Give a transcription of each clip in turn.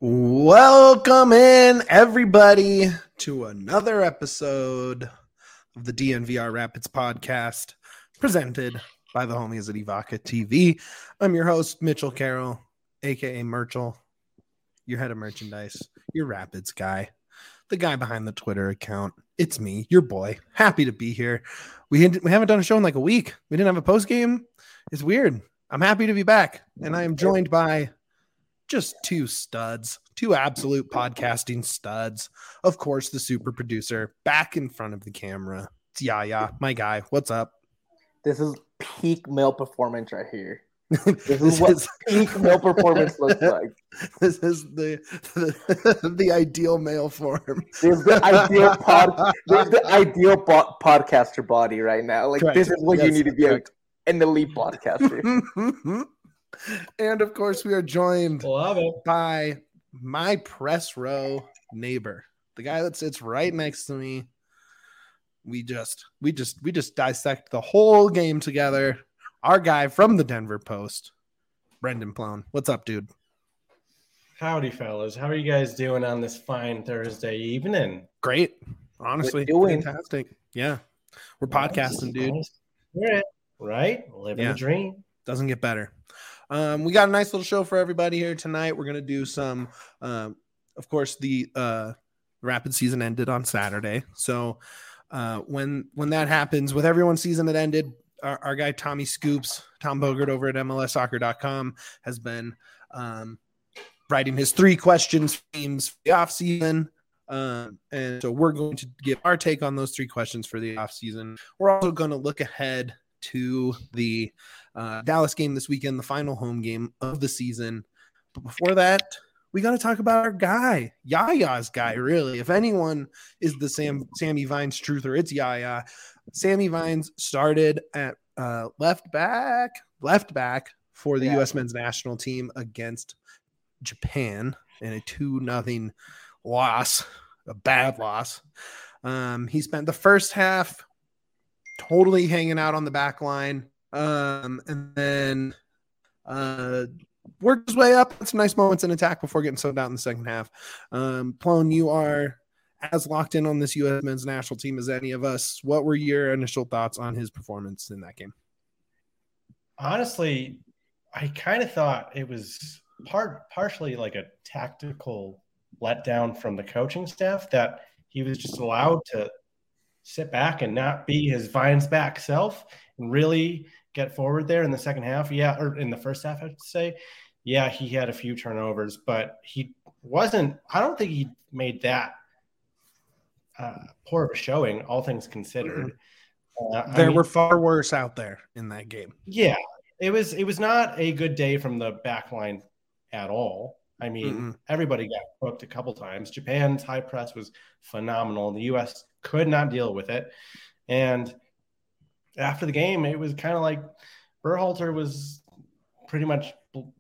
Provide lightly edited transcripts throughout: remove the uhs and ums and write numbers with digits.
Welcome in, everybody, to another episode of the DNVR Rapids podcast, presented by the homies at Evoca TV. I'm your host, Mitchell Carroll, a.k.a. Merchel, your head of merchandise, your Rapids guy, the guy behind the Twitter account. It's me, your boy. Happy to be here. We haven't done a show in like a week. We didn't have a post game. It's weird. I'm happy to be back, and I am joined by just two absolute podcasting studs. Of course, the super producer back in front of the camera. It's Yaya, my guy. What's up? This is peak male performance right here. This is what peak male performance looks like. This is the ideal male form. This is the ideal podcaster body right now. Like correct. This is what you need to be an elite podcaster. And of course, we are joined by my press row neighbor, the guy that sits right next to me. We just dissect the whole game together. Our guy from the Denver Post, Brendan Plone. What's up, dude? Howdy, fellas. How are you guys doing on this fine Thursday evening? Great. Honestly, fantastic. Yeah. We're podcasting, dude. Right? Living the dream. Doesn't get better. We got a nice little show for everybody here tonight. We're going to do some, of course, the Rapid season ended on Saturday. So when that happens, with everyone's season that ended, our guy Tommy Scoops, Tom Bogert over at MLSsoccer.com has been writing his 3 questions themes for the offseason. And so we're going to give our take on those 3 questions for the offseason. We're also going to look ahead to the Dallas game this weekend, the final home game of the season. But before that, we got to talk about our guy, Yaya's guy, really. If anyone is the Sammy Vines truther, it's Yaya. Sammy Vines started at left back for the U.S. men's national team against Japan in a 2-0 loss, a bad loss. He spent the first half totally hanging out on the back line. And then worked his way up. Some nice moments in attack before getting subbed out in the second half. Plone, you are as locked in on this U.S. men's national team as any of us. What were your initial thoughts on his performance in that game? Honestly, I kind of thought it was partially like a tactical letdown from the coaching staff that he was just allowed to sit back and not be his Vines back self and really get forward there in the second half. Yeah, or in the first half, I would say. Yeah, he had a few turnovers, but he wasn't – I don't think he made that poor of a showing, all things considered. There were far worse out there in that game. Yeah, it was not a good day from the back line at all. I mean, everybody got hooked a couple times. Japan's high press was phenomenal. The U.S. could not deal with it. And after the game, it was kind of like Berhalter was pretty much,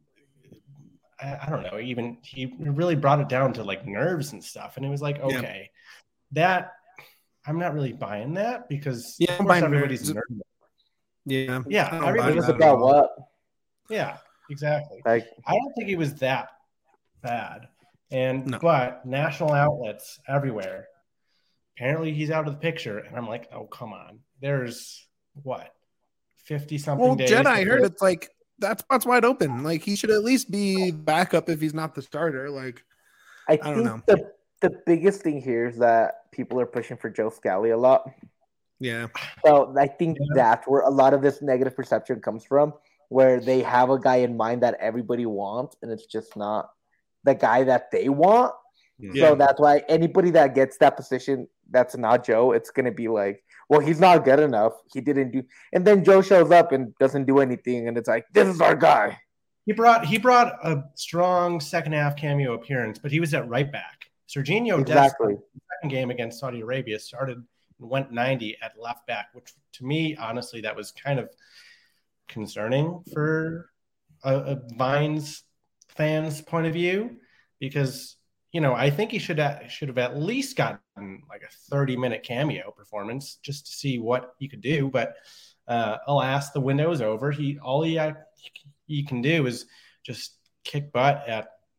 I don't know, even he really brought it down to like nerves and stuff. And it was like, okay, that I'm not really buying that because of course everybody's nervous. Yeah. Everybody's about what? Yeah, exactly. I don't think he was that bad. But national outlets everywhere, apparently he's out of the picture. And I'm like, oh, come on. There's what, 50-something days? Jen, I heard it's like that spot's wide open. Like he should at least be backup if he's not the starter. Like I don't know. The biggest thing here is that people are pushing for Joe Scally a lot. Yeah. So I think that's where a lot of this negative perception comes from, where they have a guy in mind that everybody wants, and it's just not the guy that they want. Yeah. So that's why anybody that gets that position that's not Joe, it's going to be like, well, he's not good enough. He didn't do – and then Joe shows up and doesn't do anything, and it's like, this is our guy. He brought a strong second-half cameo appearance, but he was at right back. Serginho exactly. The second game against Saudi Arabia started and went 90 at left back, which to me, honestly, that was kind of concerning for a Vines fans' point of view because, you know, I think he should have at least gotten like a 30-minute cameo performance just to see what he could do. But alas, the window is over. All he can do is just kick butt at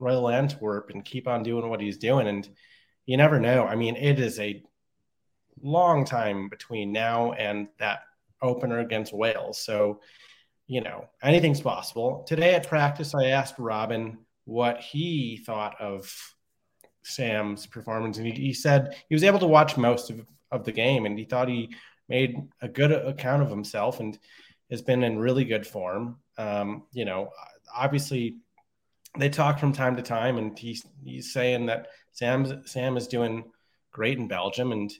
Royal Antwerp and keep on doing what he's doing. And you never know. I mean, it is a long time between now and that opener against Wales. So, anything's possible. Today at practice, I asked Robin what he thought of Sam's performance. And he said he was able to watch most of the game, and he thought he made a good account of himself and has been in really good form. Obviously they talk from time to time, and he's saying that Sam is doing great in Belgium. And,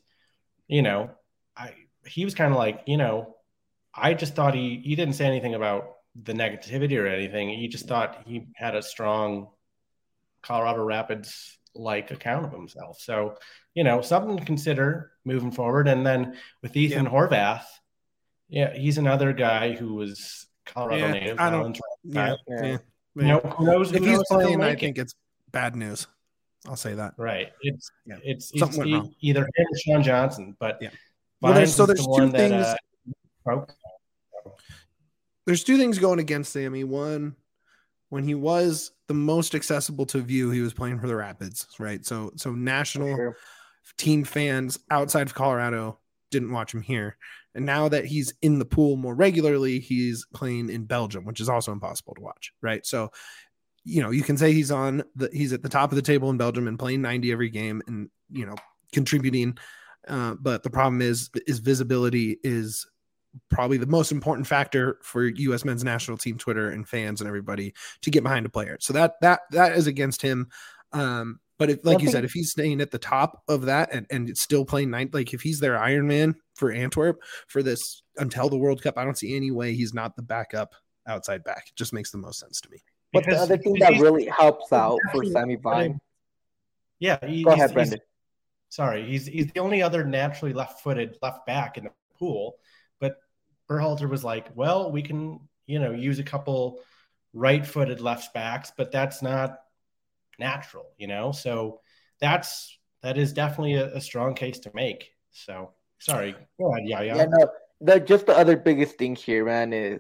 he was kind of like, I just thought he didn't say anything about the negativity or anything. He just thought he had a strong Colorado Rapids like account of himself. So, something to consider moving forward. And then with Ethan Horvath, he's another guy who was Colorado native. Who knows? If he's playing, I think it's bad news. I'll say that. Right. It's either him or Sean Johnson, but there's two things. There's two things going against Sammy. One, when he was the most accessible to view, he was playing for the Rapids, right? So national team fans outside of Colorado didn't watch him here. And now that he's in the pool more regularly, he's playing in Belgium, which is also impossible to watch, right? So, you can say he's at the top of the table in Belgium and playing 90 every game and, contributing. But the problem is visibility is probably the most important factor for U.S. men's national team Twitter and fans and everybody to get behind a player. So that is against him. But if if he's staying at the top of that and it's still playing if he's their Iron Man for Antwerp for this until the World Cup, I don't see any way he's not the backup outside back. It just makes the most sense to me. But the other thing that really helps out for Sammy Vine. Yeah. Go ahead, Brendan. He's the only other naturally left-footed left back in the pool. But Berhalter was like, well, we can, use a couple right-footed left backs, but that's not natural, So that is definitely a strong case to make. So sorry. Go ahead, Yaya. Yeah, no, just the other biggest thing here, man, is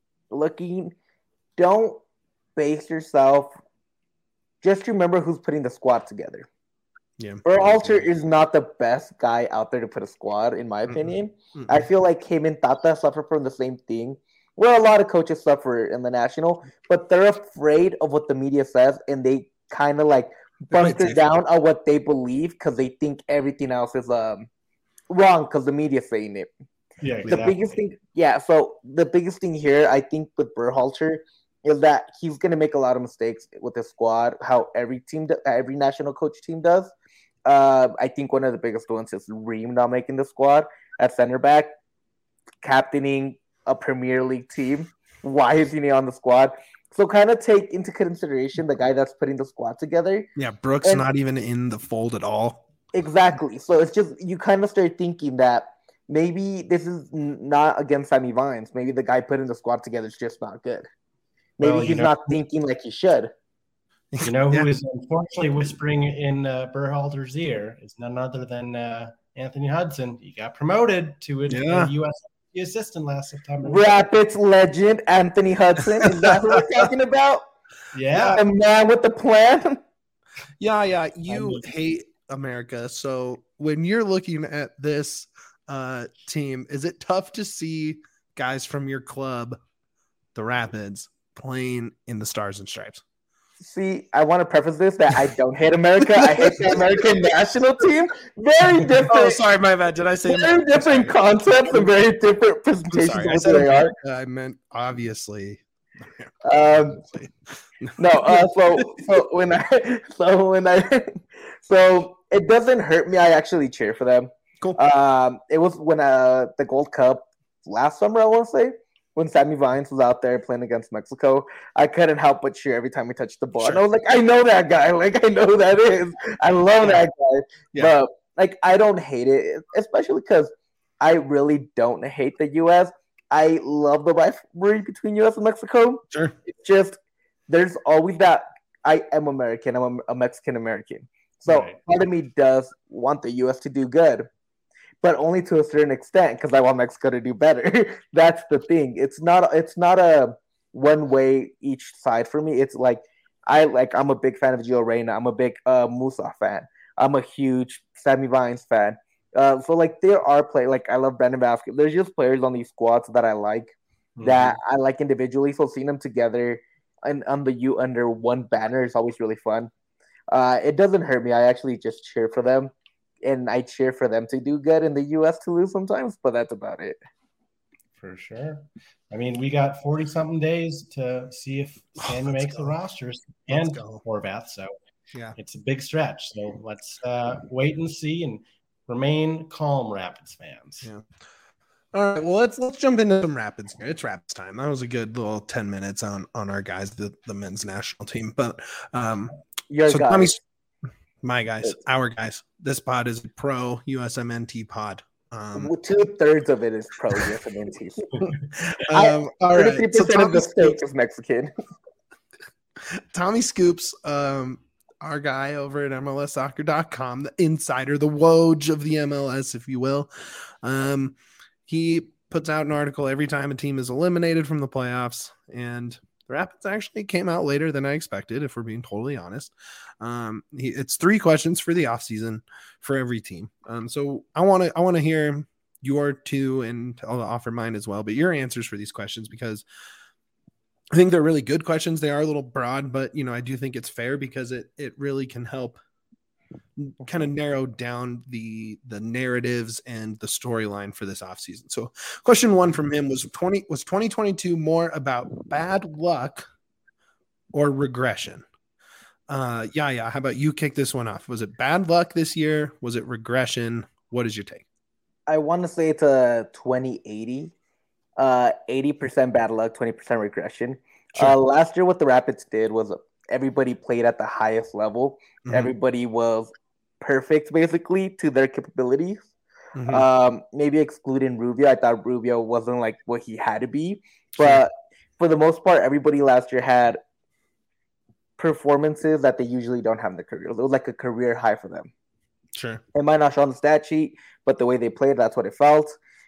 don't base yourself. Just remember who's putting the squad together. Yeah. Berhalter is not the best guy out there to put a squad, in my opinion. I feel like him and Tata suffer from the same thing, where a lot of coaches suffer in the national, but they're afraid of what the media says, and they kind of bunker down on what they believe because they think everything else is wrong because the media's saying it. Yeah, exactly. So the biggest thing here, I think, with Berhalter is that he's going to make a lot of mistakes with the squad, how every national coach team does. I think one of the biggest ones is Ream not making the squad at center back, captaining a Premier League team. Why is he on the squad? So kind of take into consideration the guy that's putting the squad together. Yeah, Brooks not even in the fold at all. Exactly. So it's just you kind of start thinking that maybe this is not against Sammy Vines. Maybe the guy putting the squad together is just not good. Maybe he's not thinking like he should. Who is unfortunately whispering in Berhalter's ear is none other than Anthony Hudson. He got promoted to a U.S. assistant last September. Rapids legend Anthony Hudson. Is that what we're talking about? Yeah. A man with a plan. Yeah. You hate America. So when you're looking at this team, is it tough to see guys from your club, the Rapids, playing in the Stars and Stripes? See, I want to preface this that I don't hate America. I hate the American national team. Very different. Oh, sorry, my bad. Did I say very different concepts and very different presentations of what they are? I meant obviously. So it doesn't hurt me. I actually cheer for them. Cool. It was when the Gold Cup last summer, I want to say, when Sammy Vines was out there playing against Mexico. I couldn't help but cheer every time he touched the ball. Sure. And I was like, I know that guy. I know who that is. I love that guy. Yeah. But I don't hate it, especially because I really don't hate the U.S. I love the rivalry between U.S. and Mexico. Sure. It's just there's always that I am American. I'm a Mexican American. So part of me does want the U.S. to do good, but only to a certain extent because I want Mexico to do better. That's the thing. It's not a one way each side for me. It's like I'm a big fan of Gio Reyna. I'm a big Musa fan. I'm a huge Sammy Vines fan. So like there are players like I love Brandon Vasquez. There's just players on these squads that I like that I like individually. So seeing them together and under one banner is always really fun. It doesn't hurt me. I actually just cheer for them, and I cheer for them to do good and the U.S. to lose sometimes. But that's about it. For sure. I mean, we got 40-something days to see if Sammy makes the rosters and Horvath. So yeah, it's a big stretch. So let's wait and see and remain calm, Rapids fans. Yeah. All right. Well, let's jump into some Rapids here. It's Rapids time. That was a good little 10 minutes on our guys, the men's national team. But your guys. My guys, our guys. This pod is a pro USMNT pod. 2/3 of it is pro USMNT. All right. 33% so of the state is Mexican. Tommy Scoops, our guy over at MLSsoccer.com, the insider, the Woj of the MLS, if you will. He puts out an article every time a team is eliminated from the playoffs, and the Rapids actually came out later than I expected, if we're being totally honest. It's 3 questions for the offseason for every team. So I want to hear your 2, and I'll offer mine as well, but your answers for these questions, because I think they're really good questions. They are a little broad, but I do think it's fair because it really can help kind of narrow down the narratives and the storyline for this offseason. So question 1 from him was 2022 more about bad luck or regression? Yeah. How about you kick this one off? Was it bad luck this year? Was it regression? What is your take? I want to say it's a 20-80. 80% bad luck, 20% regression. Sure. Last year, what the Rapids did was everybody played at the highest level. Mm-hmm. Everybody was perfect, basically, to their capabilities. Mm-hmm. Maybe excluding Rubio. I thought Rubio wasn't like what he had to be. But for the most part, everybody last year had performances that they usually don't have in their career. It was like a career high for them. Sure. It might not show on the stat sheet, but the way they played, that's what it felt.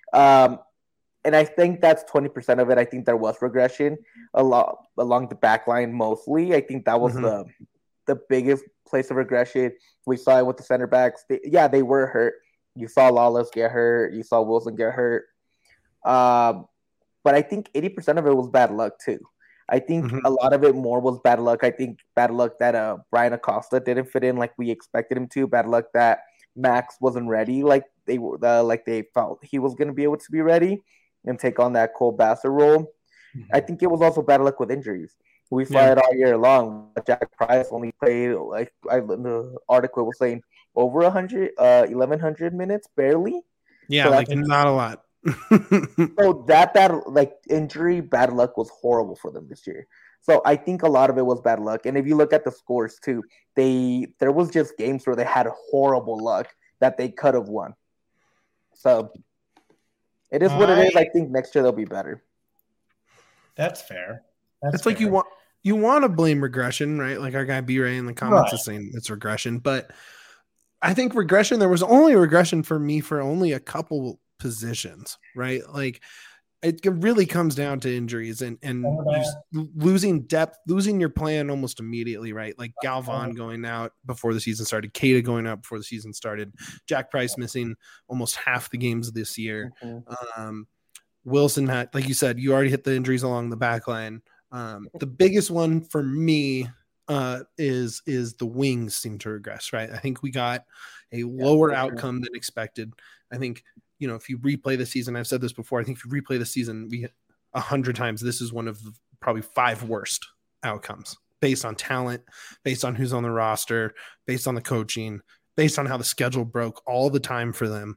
And I think that's 20% of it. I think there was regression along the back line mostly. I think that was the biggest place of regression. We saw it with the center backs. They were hurt. You saw Lawless get hurt. You saw Wilson get hurt. But I think 80% of it was bad luck too. I think a lot of it more was bad luck. I think bad luck that Brian Acosta didn't fit in like we expected him to. Bad luck that Max wasn't ready like they felt he was going to be able to be ready and take on that Cole Bassett role. Mm-hmm. I think it was also bad luck with injuries. We saw it all year long. Jack Price only played, the article was saying, over 1,100 minutes, barely. Yeah, so not a lot. So that injury, bad luck was horrible for them this year. So I think a lot of it was bad luck. And if you look at the scores too, there was just games where they had horrible luck that they could have won. So it is what it is. I think next year they'll be better. That's fair. It's fair. Like you want to blame regression, right? Like our guy B-Ray in the comments is saying it's regression, but I think regression, there was only regression for me for only a couple positions, right? Like it really comes down to injuries and losing depth, losing your plan almost immediately, right? Like Galvan going out before the season started, Keita going out before the season started, Jack Price missing almost half the games this year. Mm-hmm. Wilson had, like you said, you already hit the injuries along the back line. The biggest one for me is the wings seem to regress, right? I think we got a lower outcome than expected. I think, if you replay the season, I've said this before, I think if you replay the season 100 times, this is one of the probably 5 worst outcomes based on talent, based on who's on the roster, based on the coaching, based on how the schedule broke all the time for them.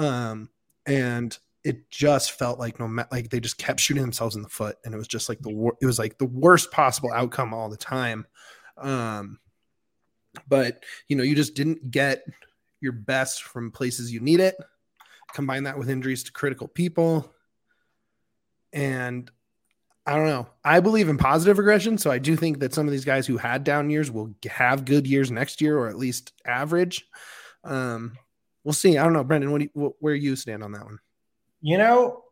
And it just felt like they just kept shooting themselves in the foot, and it was just like the worst possible outcome all the time. But you just didn't get your best from places you need it. Combine that with injuries to critical people. And I don't know. I believe in positive regression. So I do think that some of these guys who had down years will have good years next year, or at least average. We'll see. I don't know, Brendan, where you stand on that one?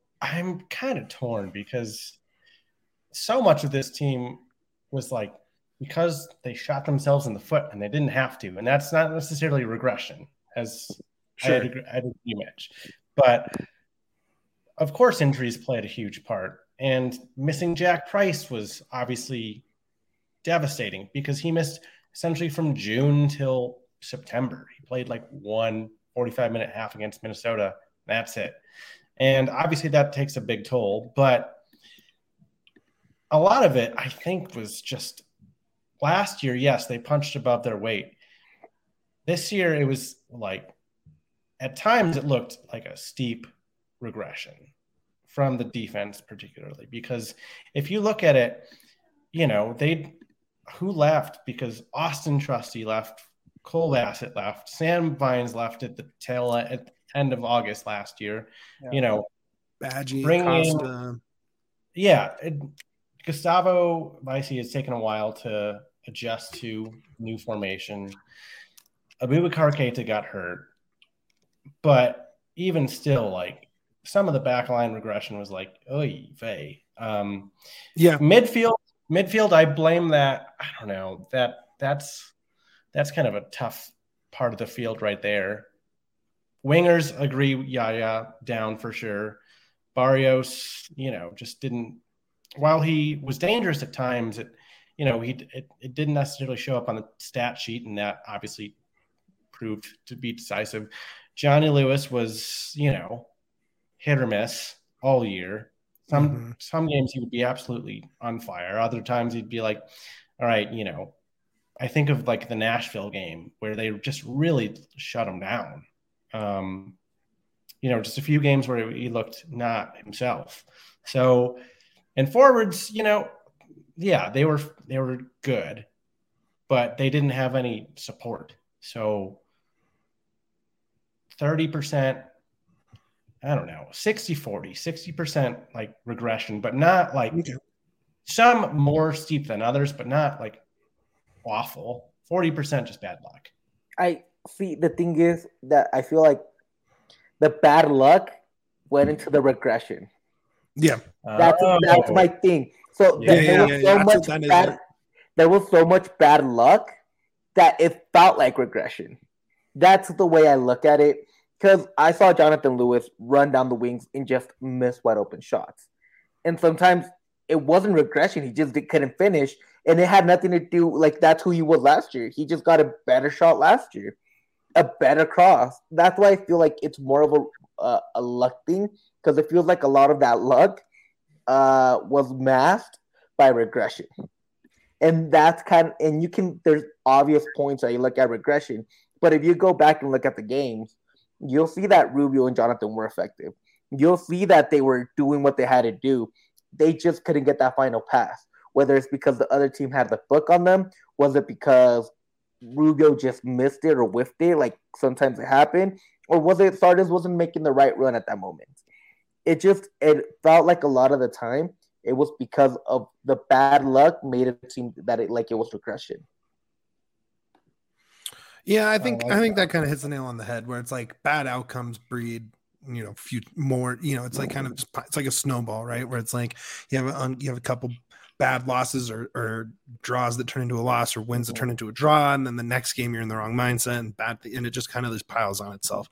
I'm kind of torn because so much of this team was like because they shot themselves in the foot and they didn't have to. And that's not necessarily regression, as I had agree much. But of course, injuries played a huge part. And missing Jack Price was obviously devastating because he missed essentially from June till September. He played like 1 45-minute half against Minnesota. That's it. And obviously that takes a big toll. But a lot of it, I think, was just last year, yes, they punched above their weight. This year, it was like, at times, it looked like a steep regression from the defense, particularly. Because if you look at it, who left? Because Austin Trusty left, Cole Bassett left, Sam Vines left at the end of August last year. Yeah. Badgie, Costa. Gustavo Vicey has taken a while to adjust to new formation. Abubakar Keita got hurt. But even still, like, some of the backline regression was like, oy vey. Midfield, I blame that. I don't know. That's kind of a tough part of the field right there. Wingers, agree, Yaya down for sure. Barrios, just didn't. While he was dangerous at times, it didn't necessarily show up on the stat sheet, and that obviously proved to be decisive. Johnny Lewis was, hit or miss all year. Some games he would be absolutely on fire. Other times he'd be like, all right, I think of like the Nashville game where they just really shut him down. Just a few games where he looked not himself. So, and forwards, they were good, but they didn't have any support. So 30%, I don't know, 60-40, 60% like regression, but not like some more steep than others, but not like awful. 40% just bad luck. I see. The thing is that I feel like the bad luck went into the regression. Yeah. That's my thing. So there was so much bad luck that it felt like regression. That's the way I look at it. Because I saw Jonathan Lewis run down the wings and just miss wide open shots. And sometimes it wasn't regression. He just couldn't finish. And it had nothing to do, like, that's who he was last year. He just got a better shot last year. A better cross. That's why I feel like it's more of a luck thing. Because it feels like a lot of that luck was masked by regression. And that's there's obvious points that you look at regression. But if you go back and look at the games, you'll see that Rubio and Jonathan were effective. You'll see that they were doing what they had to do. They just couldn't get that final pass. Whether it's because the other team had the book on them, was it because Rubio just missed it or whiffed it, like sometimes it happened, or was it Sardes wasn't making the right run at that moment? It felt like a lot of the time it was because of the bad luck made it seem that it was regression. Yeah, I think that kind of hits the nail on the head where it's like bad outcomes breed, few more, it's like kind of just, it's like a snowball, right? Where it's like you have a couple bad losses or draws that turn into a loss or wins that turn into a draw. And then the next game you're in the wrong mindset and it just kind of just piles on itself.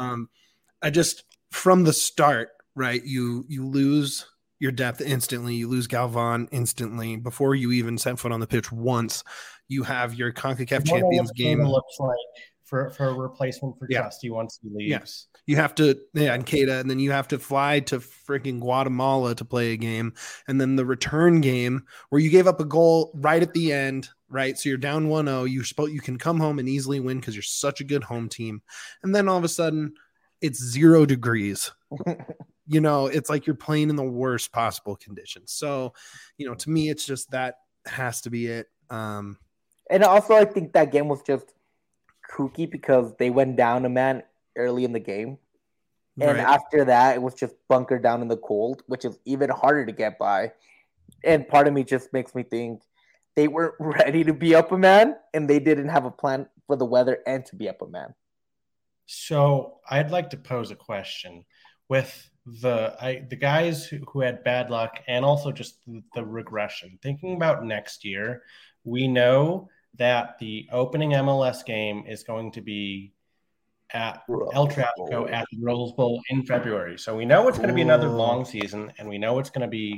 From the start, right. You lose your depth instantly. You lose Galvan instantly before you even set foot on the pitch once. You have your CONCACAF Champions game. Looks like for a replacement for Trusty once he leaves. Yes. You have to, and Keita, and then you have to fly to freaking Guatemala to play a game. And then the return game where you gave up a goal right at the end, right? So you're down 1-0. You can come home and easily win because you're such a good home team. And then all of a sudden it's 0 degrees. It's like you're playing in the worst possible conditions. So, to me, it's just that has to be it. And also, I think that game was just kooky because they went down a man early in the game. And after that, it was just bunkered down in the cold, which is even harder to get by. And part of me just makes me think they weren't ready to be up a man, and they didn't have a plan for the weather and to be up a man. So I'd like to pose a question with the guys who had bad luck and also just the regression. Thinking about next year, we know that the opening MLS game is going to be at El Tráfico at the Rose Bowl in February. So we know it's going to be another long season, and we know it's going to be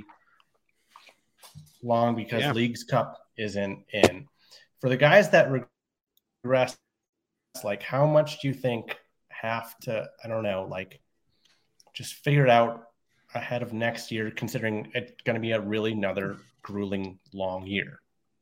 long because Leagues Cup isn't in. For the guys that regress, like how much do you think have to, I don't know, like just figure it out ahead of next year, considering it's going to be another grueling long year?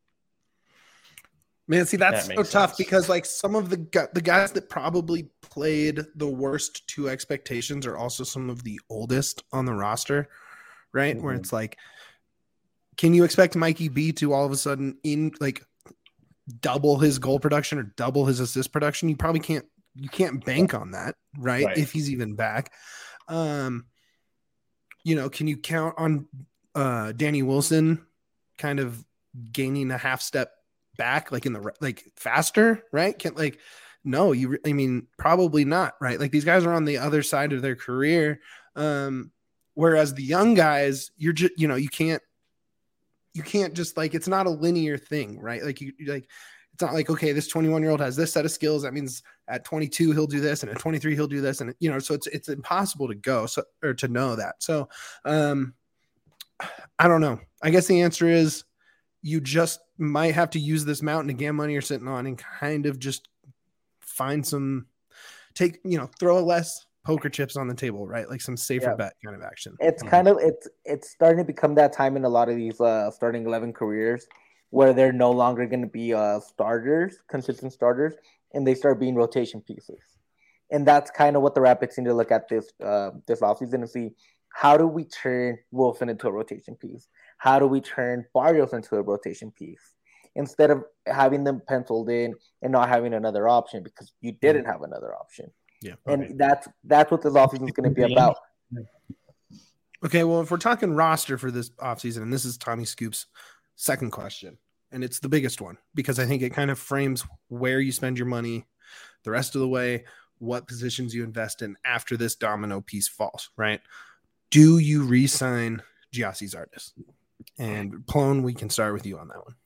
Man, see, that's so tough because like some of the guys that probably played the worst to expectations are also some of the oldest on the roster, right? Mm-hmm. Where it's like, can you expect Mikey B to all of a sudden double his goal production or double his assist production? You probably can't. You can't bank on that, right? If he's even back. Can you count on Danny Wilson kind of gaining a half step back, faster, right? Probably not, right? Like these guys are on the other side of their career. Whereas the young guys, you're just, you can't just it's not a linear thing, right? It's not like, okay, this 21-year-old has this set of skills. That means at 22, he'll do this. And at 23, he'll do this. And, so it's impossible to know that. So I don't know. I guess the answer is you just might have to use this mountain of GAM money you're sitting on and kind of just find throw less poker chips on the table, right? Like some safer bet kind of action. It's it's starting to become that time in a lot of these starting 11 careers where they're no longer going to be consistent starters, and they start being rotation pieces. And that's kind of what the Rapids need to look at this offseason and see, how do we turn Wilson into a rotation piece? How do we turn Barrios into a rotation piece? Instead of having them penciled in and not having another option because you didn't have another option. Yeah. And that's what this offseason is going to be about. Okay, well, if we're talking roster for this offseason, and this is Tommy Scoop's second question, and it's the biggest one because I think it kind of frames where you spend your money the rest of the way, what positions you invest in after this domino piece falls, right? Do you re-sign Gyasi Zardes? And Plone, we can start with you on that one.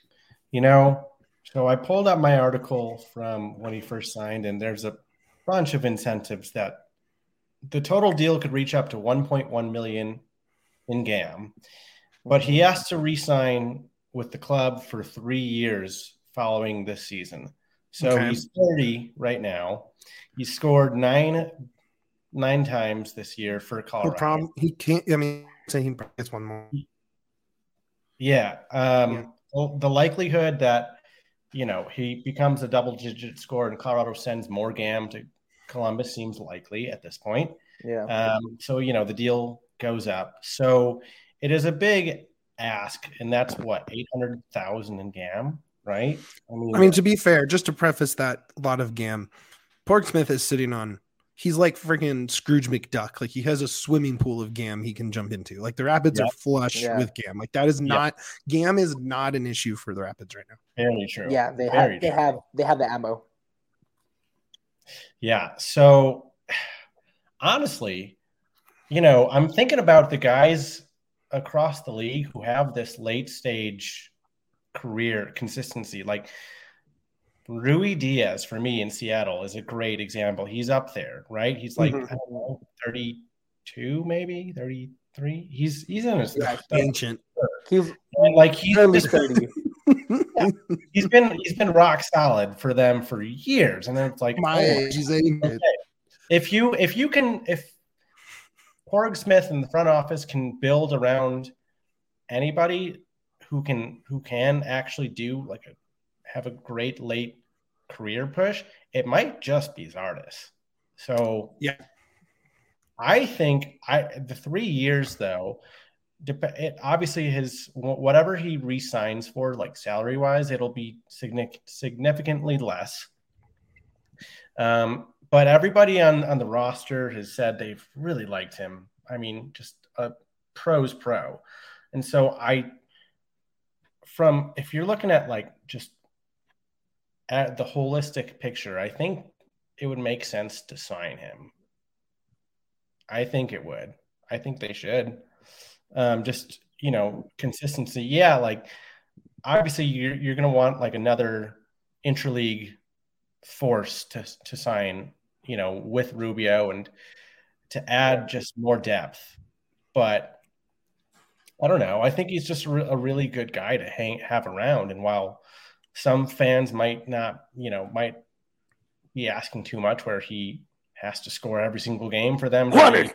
So I pulled up my article from when he first signed, and there's a bunch of incentives that the total deal could reach up to $1.1 million in GAM, but he has to re-sign with the club for 3 years following this season. So He's 30 right now. He scored nine times this year for Colorado. No problem. He can't. Say he gets one more. Yeah. Well, the likelihood that he becomes a double-digit scorer and Colorado sends more GAM to Columbus seems likely at this point. Yeah. So the deal goes up. So it is a big ask, and that's what, $800,000 in GAM, right? To be fair, just to preface that, a lot of GAM, Porksmith is sitting on. He's like freaking Scrooge McDuck. Like he has a swimming pool of GAM he can jump into. Like the Rapids are flush with GAM. Like that is not GAM is not an issue for the Rapids right now. Very true. Yeah, they have the ammo. Yeah. So honestly, I'm thinking about the guys across the league who have this late stage career consistency. Like Rui Diaz for me in Seattle is a great example. He's up there, right? He's like, I don't know, 32, maybe 33. He's in his ancient. He's early 30. He's been rock solid for them for years, and then it's like if Porg Smith in the front office can build around anybody who can actually have a great late career push, it might just be Zardes. So yeah, I think the 3 years though, obviously his whatever he re-signs for, like salary wise, it'll be significantly less. But everybody on the roster has said they've really liked him. Just a pro's pro. And so if you're looking at just at the holistic picture, I think it would make sense to sign him. I think it would. I think they should. Consistency. Yeah, obviously you're going to want like another interleague force to sign, with Rubio and to add just more depth. But I don't know. I think he's just a really good guy to have around. And while some fans might not, might be asking too much, where he has to score every single game for them.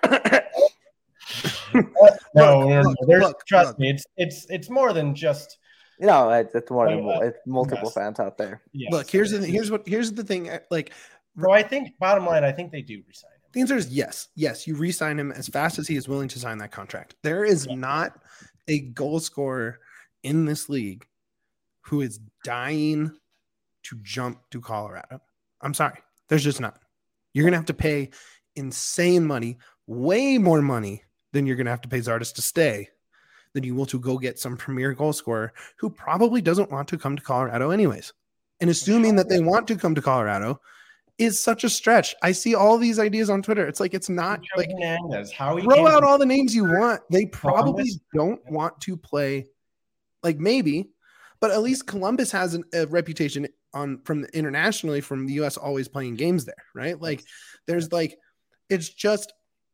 Trust me, it's more than just. It's more than it's multiple fans out there. Yes. Look, here's the thing. Like, so I think bottom line, I think they do resign him. The answer is yes. Yes, you re-sign him as fast as he is willing to sign that contract. There is not a goal scorer in this league who is dying to jump to Colorado. I'm sorry. There's just not. You're going to have to pay insane money, way more money than you're going to have to pay Zardes to stay than you will to go get some premier goal scorer who probably doesn't want to come to Colorado anyways. And assuming that they want to come to Colorado is such a stretch. I see all these ideas on Twitter. It's like, it's not like throw out all the names you want. They probably don't want to play, like, maybe, but at least Columbus has a reputation from internationally from the US always playing games there, right? Like, there's like, it's just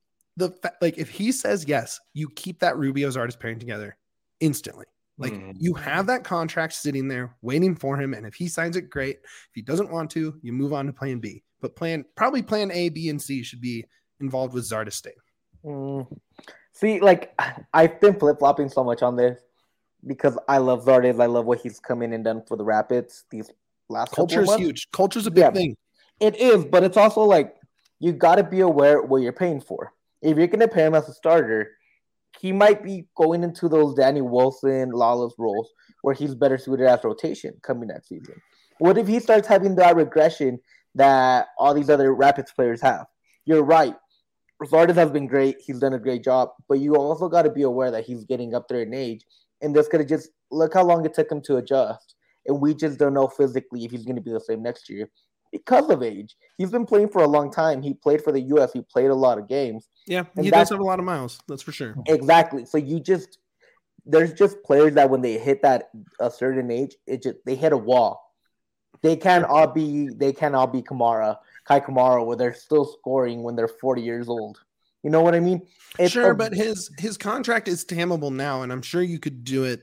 like, if he says yes, you keep that Rubio Zardes pairing together instantly. Like, you have that contract sitting there waiting for him, and if he signs it, great. If he doesn't want to, you move on to plan B. But probably plan A, B, and C should be involved with Zardes staying. See, like, I've been flip-flopping so much on this because I love Zardes. I love what he's come in and done for the Rapids these last Culture is huge. Culture's a big thing. It is, but it's also like, you got to be aware what you're paying for. If you're going to pay him as a starter, he might be going into those Danny Wilson, Lawless roles where he's better suited as rotation coming next season. What if he starts having that regression that all these other Rapids players have? You're right. Zardes has been great. He's done a great job. But you also got to be aware that he's getting up there in age. And this could have just – look how long it took him to adjust. And we just don't know physically if he's going to be the same next year because of age. He's been playing for a long time. He played for the U.S. He played a lot of games. Yeah, he does have a lot of miles. That's for sure. Exactly. So there's just players that when they hit that a certain age, they hit a wall. They can't all be Kai Kamara, where they're still scoring when they're 40 years old. You know what I mean? But his contract is tammable now, and I'm sure you could do it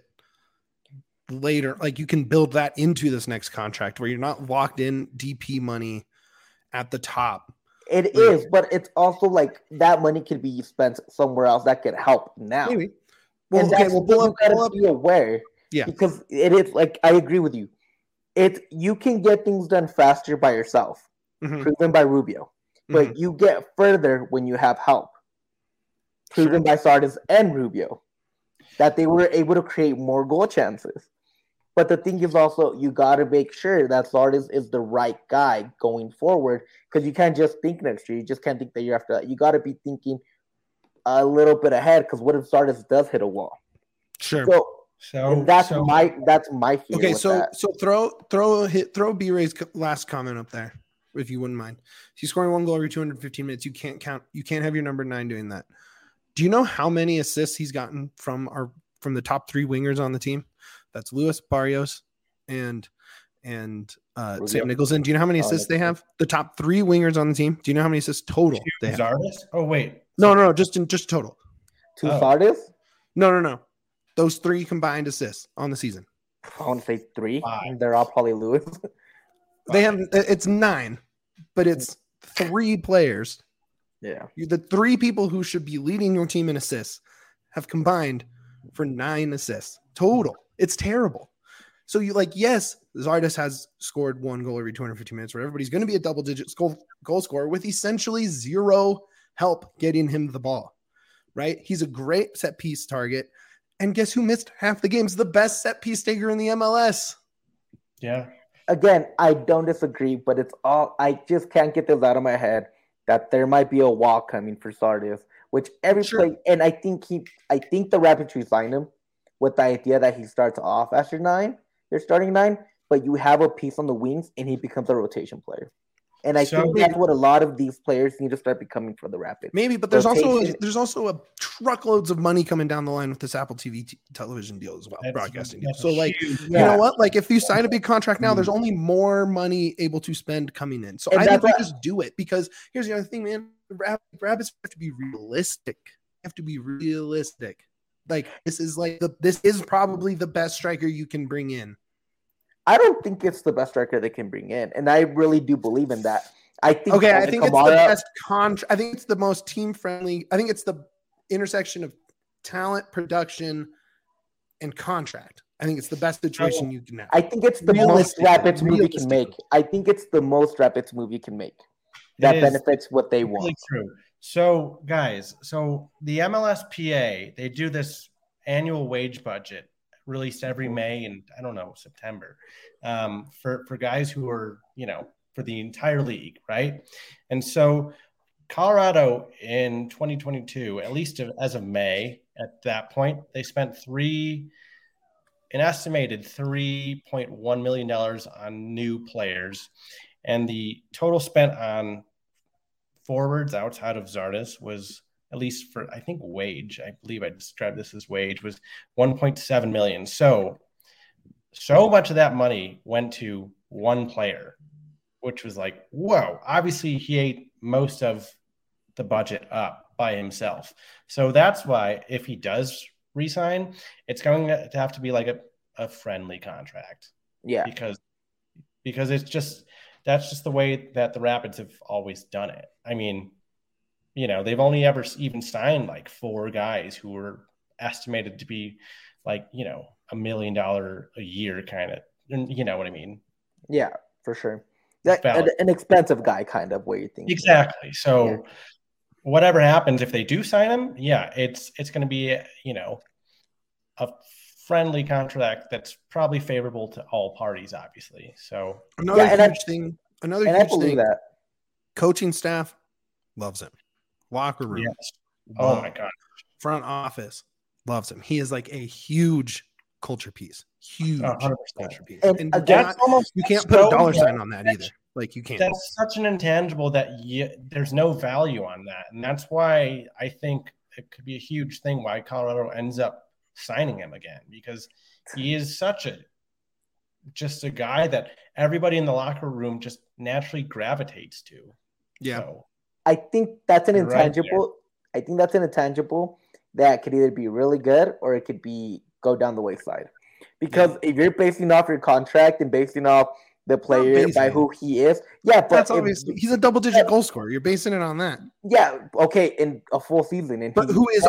later. Like, you can build that into this next contract where you're not locked in DP money at the top. It is, but it's also like that money could be spent somewhere else that could help now. Maybe. Well, and okay, you gotta be aware. Yeah. Because it is like, I agree with you. You can get things done faster by yourself, proven by Rubio. But you get further when you have help. Proven by Zardes and Rubio. That they were able to create more goal chances. But the thing is also, you got to make sure that Zardes is the right guy going forward, because you can't just think next year. You just can't think the year after that. You got to be thinking a little bit ahead, because what if Zardes does hit a wall? Sure. So that's my fear. Okay, so throw B-Ray's last comment up there, if you wouldn't mind. He's scoring one goal every 215 minutes. You can't have your number 9 doing that. Do you know how many assists he's gotten from the top 3 wingers on the team? That's Lewis, Barrios, and Sam Nicholson. Do you know how many assists they have? The top 3 wingers on the team. Do you know how many assists total they have? Zardes? Oh, wait. No, just total. 2 Zardes? No. Those 3 combined assists on the season. I want to say 3. They're all probably Lewis. They have it's 9, but it's 3 players. Yeah. The 3 people who should be leading your team in assists have combined for 9 assists total. It's terrible. So yes, Zardes has scored 1 goal every 250 minutes, where everybody's going to be a double-digit goal scorer with essentially 0 help getting him the ball, right? He's a great set-piece target. And guess who missed half the games? The best set-piece taker in the MLS. Yeah. Again, I don't disagree, but I just can't get this out of my head that there might be a wall coming for Zardes, which play, and I think the Rapids re-signed him with the idea that he starts off as your starting 9, but you have a piece on the wings and he becomes a rotation player. And I think that's what a lot of these players need to start becoming for the Rapids. Maybe, but there's also a truckloads of money coming down the line with this Apple TV television deal as well, broadcasting deal. So, like, you know what? Like, if you sign a big contract now, there's only more money able to spend coming in. So I think we just do it, because here's the other thing, man. Rapids have to be realistic. Like, this is probably the best striker you can bring in. I don't think it's the best striker they can bring in, and I really do believe in that. I think it's the best contract. I think it's the most team friendly. I think it's the intersection of talent, production, and contract. I think it's the best situation you can have. I think it's the most Rapids move you can make. I think it's the most Rapids move you can make that benefits what they want. Really true. So, guys, the MLSPA, they do this annual wage budget released every May and I don't know, September, for guys who are, for the entire league, right? And so Colorado in 2022, at least as of May, at that point, they spent an estimated $3.1 million on new players. And the total spent on forwards outside of Zardes was, at least for, I think, wage, I believe I described this as wage, was $1.7 million. So much of that money went to one player, which was like, whoa. Obviously, he ate most of the budget up by himself. So that's why if he does resign, it's going to have to be like a friendly contract. Yeah. Because that's just the way that the Rapids have always done it. I mean, they've only ever even signed like 4 guys who were estimated to be like, $1 million a year kind of, you know what I mean? Yeah, for sure. An expensive guy kind of way you think. Exactly. So whatever happens, if they do sign him, it's going to be, a friendly contract that's probably favorable to all parties, obviously. So another huge thing, that coaching staff loves him. Locker room. Yes. Oh my God. Front office loves him. He is like a huge culture piece. Huge 100%. Culture piece. And you can't put a dollar sign on that either. Like, you can't. That's such an intangible that there's no value on that. And that's why I think it could be a huge thing why Colorado ends up signing him again, because he is just a guy that everybody in the locker room just naturally gravitates to. Yeah. So, I think that's an intangible. I think that's an intangible that could either be really good or it could go down the wayside. Because if you're basing off your contract and basing off the player by who he is, but that's obviously he's a double-digit goal scorer. You're basing it on that. Yeah, okay, in a full season, but who's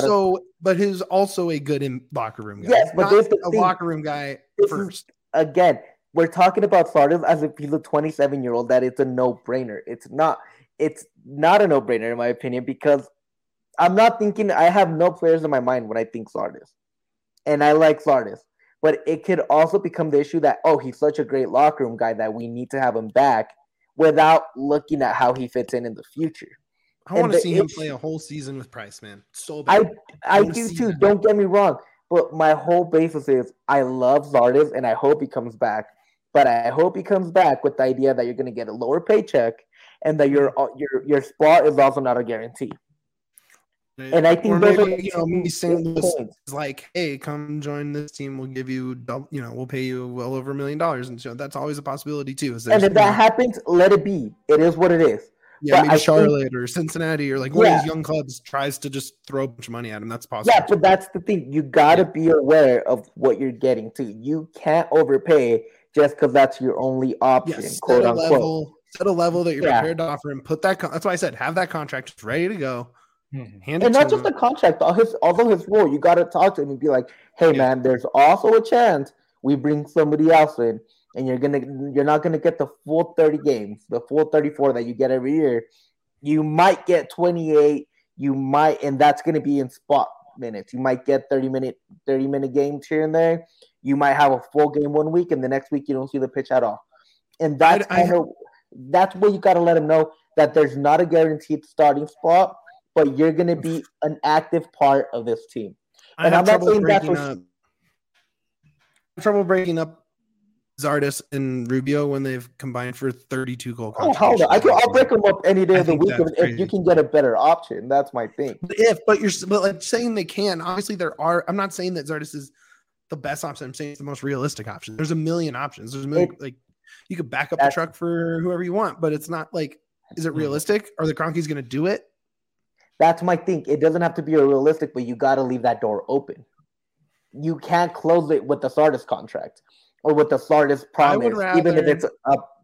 also a good locker room guy. Yes, but there's a locker room guy first. Again, we're talking about Zardes as if he's a 27-year-old. That it's a no-brainer. It's not a no-brainer in my opinion, because I'm not thinking. I have no players in my mind when I think Zardes, and I like Zardes. But it could also become the issue that, he's such a great locker room guy that we need to have him back without looking at how he fits in the future. I want to see him play a whole season with Price, man. So bad. I do too. That. Don't get me wrong. But my whole basis is I love Zardes and I hope he comes back. But I hope he comes back with the idea that you're going to get a lower paycheck and that your spot is also not a guarantee. And I think St. Louis is like, hey, come join this team. We'll give you, we'll pay you well over $1 million, and so that's always a possibility too. And if that happens, let it be. It is what it is. Yeah, maybe Charlotte or Cincinnati or like one of these young clubs tries to just throw a bunch of money at him. That's possible. Yeah, but that's the thing. You got to be aware of what you're getting to. You can't overpay just because that's your only option, quote unquote. Set a level that you're prepared to offer him. That's why I said have that contract ready to go. And not just the contract, although his role, you got to talk to him and be like, hey, man, there's also a chance we bring somebody else in, and you're not gonna get the full 30 games, the full 34 that you get every year. You might get 28, and that's gonna be in spot minutes. You might get 30-minute games here and there. You might have a full game one week, and the next week you don't see the pitch at all. And that's that's where you got to let him know that there's not a guaranteed starting spot, but you're going to be an active part of this team. And I'm not saying that's trouble breaking up Zardes and Rubio when they've combined for 32 goal contributions. Oh, hold on. I'll break them up any day of the week if you can get a better option. That's my thing. But like saying they can. Obviously, I'm not saying that Zardes is the best option. I'm saying it's the most realistic option. There's a million options. There's a million, like you could back up the truck for whoever you want, but it's not like, is it realistic? Are the Cronkies going to do it? That's my thing. It doesn't have to be realistic, but you got to leave that door open. You can't close it with the Zardes contract or with the Zardes promise, even if it's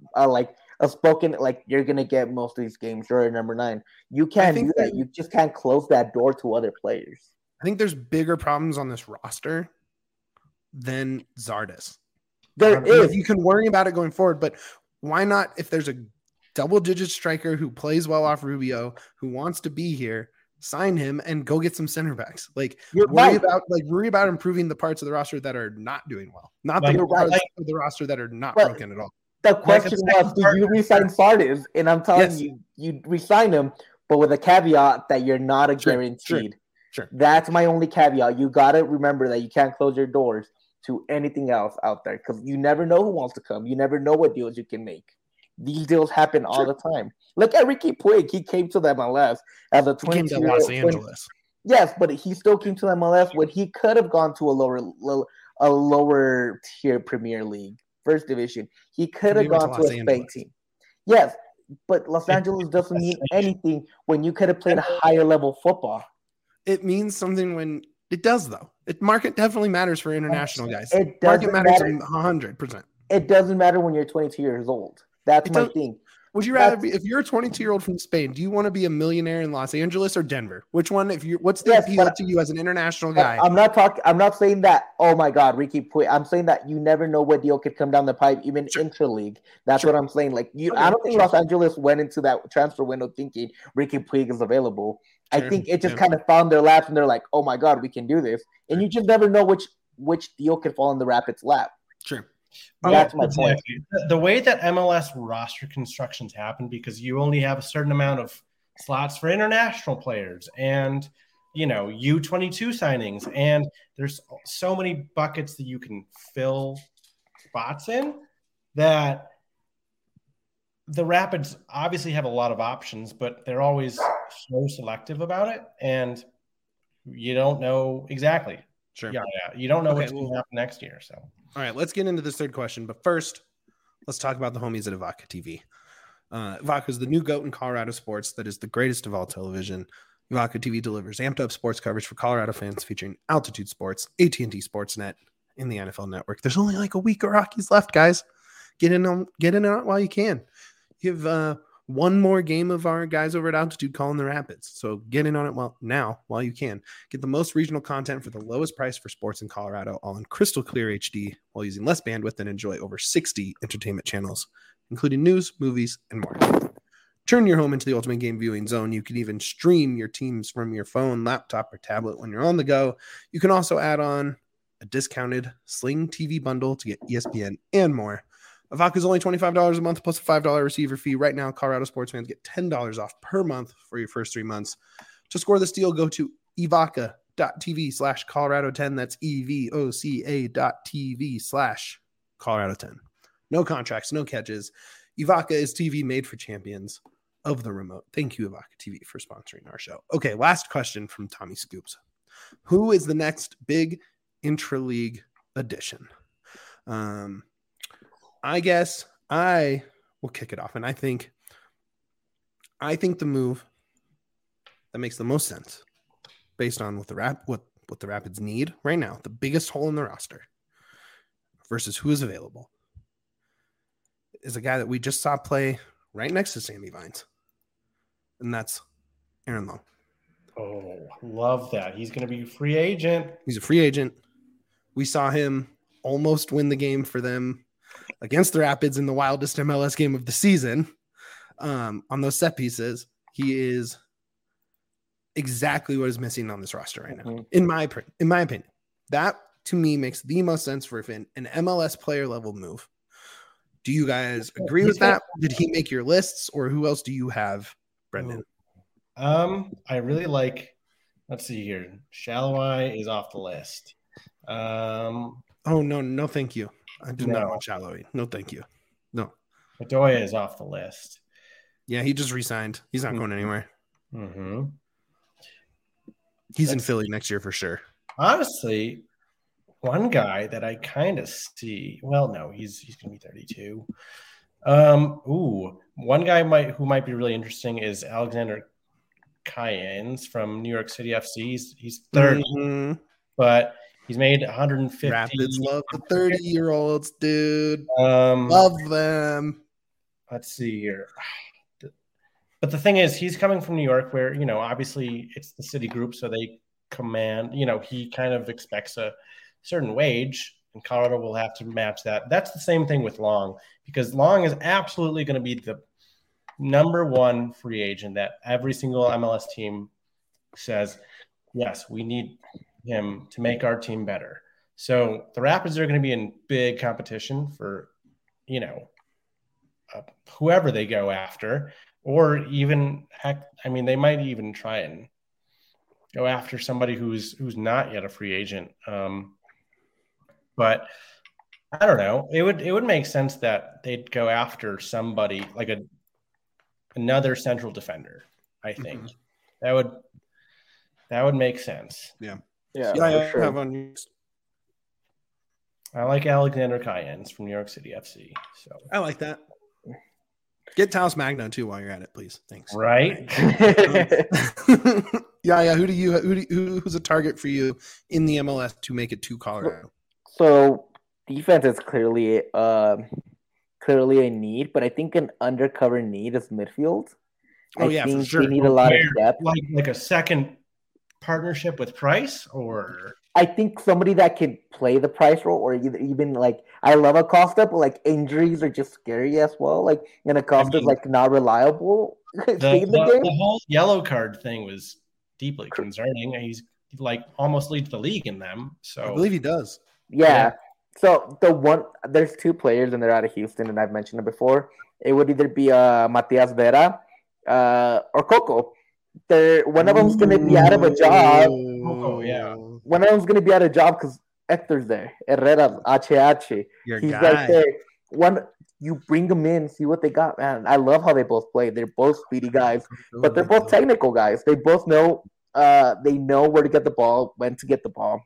a spoken, like you're going to get most of these games. You're at number 9. You can't do that. You just can't close that door to other players. I think there's bigger problems on this roster than Zardes. There is. You can worry about it going forward, but why not, if there's a double-digit striker who plays well off Rubio, who wants to be here, sign him and go get some center backs. Like worry about improving the parts of the roster that are not doing well, not the parts of the roster that are not broken at all. The question was, do you resign Zardes? And I'm telling you resign him, but with a caveat that you're not a guaranteed. Sure. That's my only caveat. You got to remember that you can't close your doors to anything else out there because you never know who wants to come. You never know what deals you can make. These deals happen all the time. Look at Ricky Puig. He came to the MLS as a 22-year-old. Los Angeles. Yes, but he still came to the MLS when he could have gone to a lower tier Premier League, first division. He could have gone to a Spain team. Yes, but Los Angeles doesn't mean anything when you could have played higher level football. It means something when it does, though. Market definitely matters for international guys. Market matters 100%. It doesn't matter when you're 22 years old. That's my thing. Would you rather be, if you're a 22-year-old from Spain, do you want to be a millionaire in Los Angeles or Denver? Which one? What's the appeal to you as an international guy? I'm not saying that. Oh my God, Ricky Puig. I'm saying that you never know what deal could come down the pipe, even intra-league. That's what I'm saying. Like I don't think Los Angeles went into that transfer window thinking Ricky Puig is available. I think it just kind of found their laps, and they're like, "Oh my God, we can do this." And you just never know which deal could fall in the Rapids' lap. Sure. That's my point. The way that MLS roster constructions happen, because you only have a certain amount of slots for international players and, U22 signings. And there's so many buckets that you can fill spots in that the Rapids obviously have a lot of options, but they're always so selective about it. And you don't know exactly. Sure. Yeah. You don't know what's going to happen next year. So. All right, let's get into this third question. But first, let's talk about the homies at Evoca TV. Evoca is the new GOAT in Colorado sports that is the greatest of all television. Evoca TV delivers amped-up sports coverage for Colorado fans featuring Altitude Sports, AT&T Sportsnet, and the NFL Network. There's only like a week of Rockies left, guys. Get in on it while you can. You have one more game of our guys over at Altitude calling the Rapids. So get in on it while you can. Get the most regional content for the lowest price for sports in Colorado, all in crystal clear HD, while using less bandwidth and enjoy over 60 entertainment channels, including news, movies, and more. Turn your home into the ultimate game viewing zone. You can even stream your teams from your phone, laptop, or tablet when you're on the go. You can also add on a discounted Sling TV bundle to get ESPN and more. Evoca is only $25 a month plus a $5 receiver fee. Right now, Colorado sports fans get $10 off per month for your first 3 months. To score this deal, go to evoca.tv/Colorado10. That's EVOCA.tv/Colorado10. No contracts, no catches. Evoca is TV made for champions of the remote. Thank you, Evoca TV, for sponsoring our show. Okay, last question from Tommy Scoops. Who is the next big intra-league addition? I guess I will kick it off, and I think the move that makes the most sense, based on what the Rapids need right now, the biggest hole in the roster, versus who is available, is a guy that we just saw play right next to Sammy Vines, and that's Aaron Long. Oh, love that! He's going to be a free agent. He's a free agent. We saw him almost win the game for them against the Rapids in the wildest MLS game of the season. On those set pieces, he is exactly what is missing on this roster right now. In my opinion, that to me makes the most sense for an MLS player level move. Do you guys agree with that? Did he make your lists, or who else do you have, Brendan? I really like. Let's see here. Shalawai is off the list. Oh no, thank you. I do not want Shallowy. No, thank you. No. Bedoya is off the list. Yeah, he just re-signed. He's not going anywhere. Mm-hmm. He's in Philly next year for sure. Honestly, one guy that I kind of see. Well, no, he's going to be 32. One guy who might be really interesting is Alexander Cayens from New York City FC. He's 30, but he's made 150. Rapids love the 30-year-olds, dude. Love them. Let's see here. But the thing is, he's coming from New York where, obviously it's the city group, so they command, he kind of expects a certain wage, and Colorado will have to match that. That's the same thing with Long, because Long is absolutely going to be the number one free agent that every single MLS team says, yes, we need him to make our team better. So the Rapids are going to be in big competition for, whoever they go after, or even they might even try and go after somebody who's not yet a free agent. But I don't know. It would make sense that they'd go after somebody like another central defender. I think that would make sense. Yeah. For sure. I like Alexander Cayens from New York City FC. So I like that. Get Taos Magno too while you're at it, please. Thanks. Right. Yeah. Who's a target for you in the MLS to make it to Colorado? So defense is clearly a need, but I think an undercover need is midfield. For sure. They need a lot of depth, like a second partnership with Price, or I think somebody that could play the Price role, or even like I love Acosta, but like injuries are just scary as well. Like, and Acosta's not reliable. The whole yellow card thing was deeply concerning. He's almost leads the league in them. So I believe he does. Yeah. So there's two players and they're out of Houston, and I've mentioned it before. It would either be Matias Vera or Coco. One of them's going to be out of a job. Coco, yeah. One of them's going to be out of job because Hector's there. Herrera, HH. He's guy. Right there. You bring them in, see what they got, man. I love how they both play. They're both speedy guys, but they're both technical guys. They both know they know where to get the ball, when to get the ball.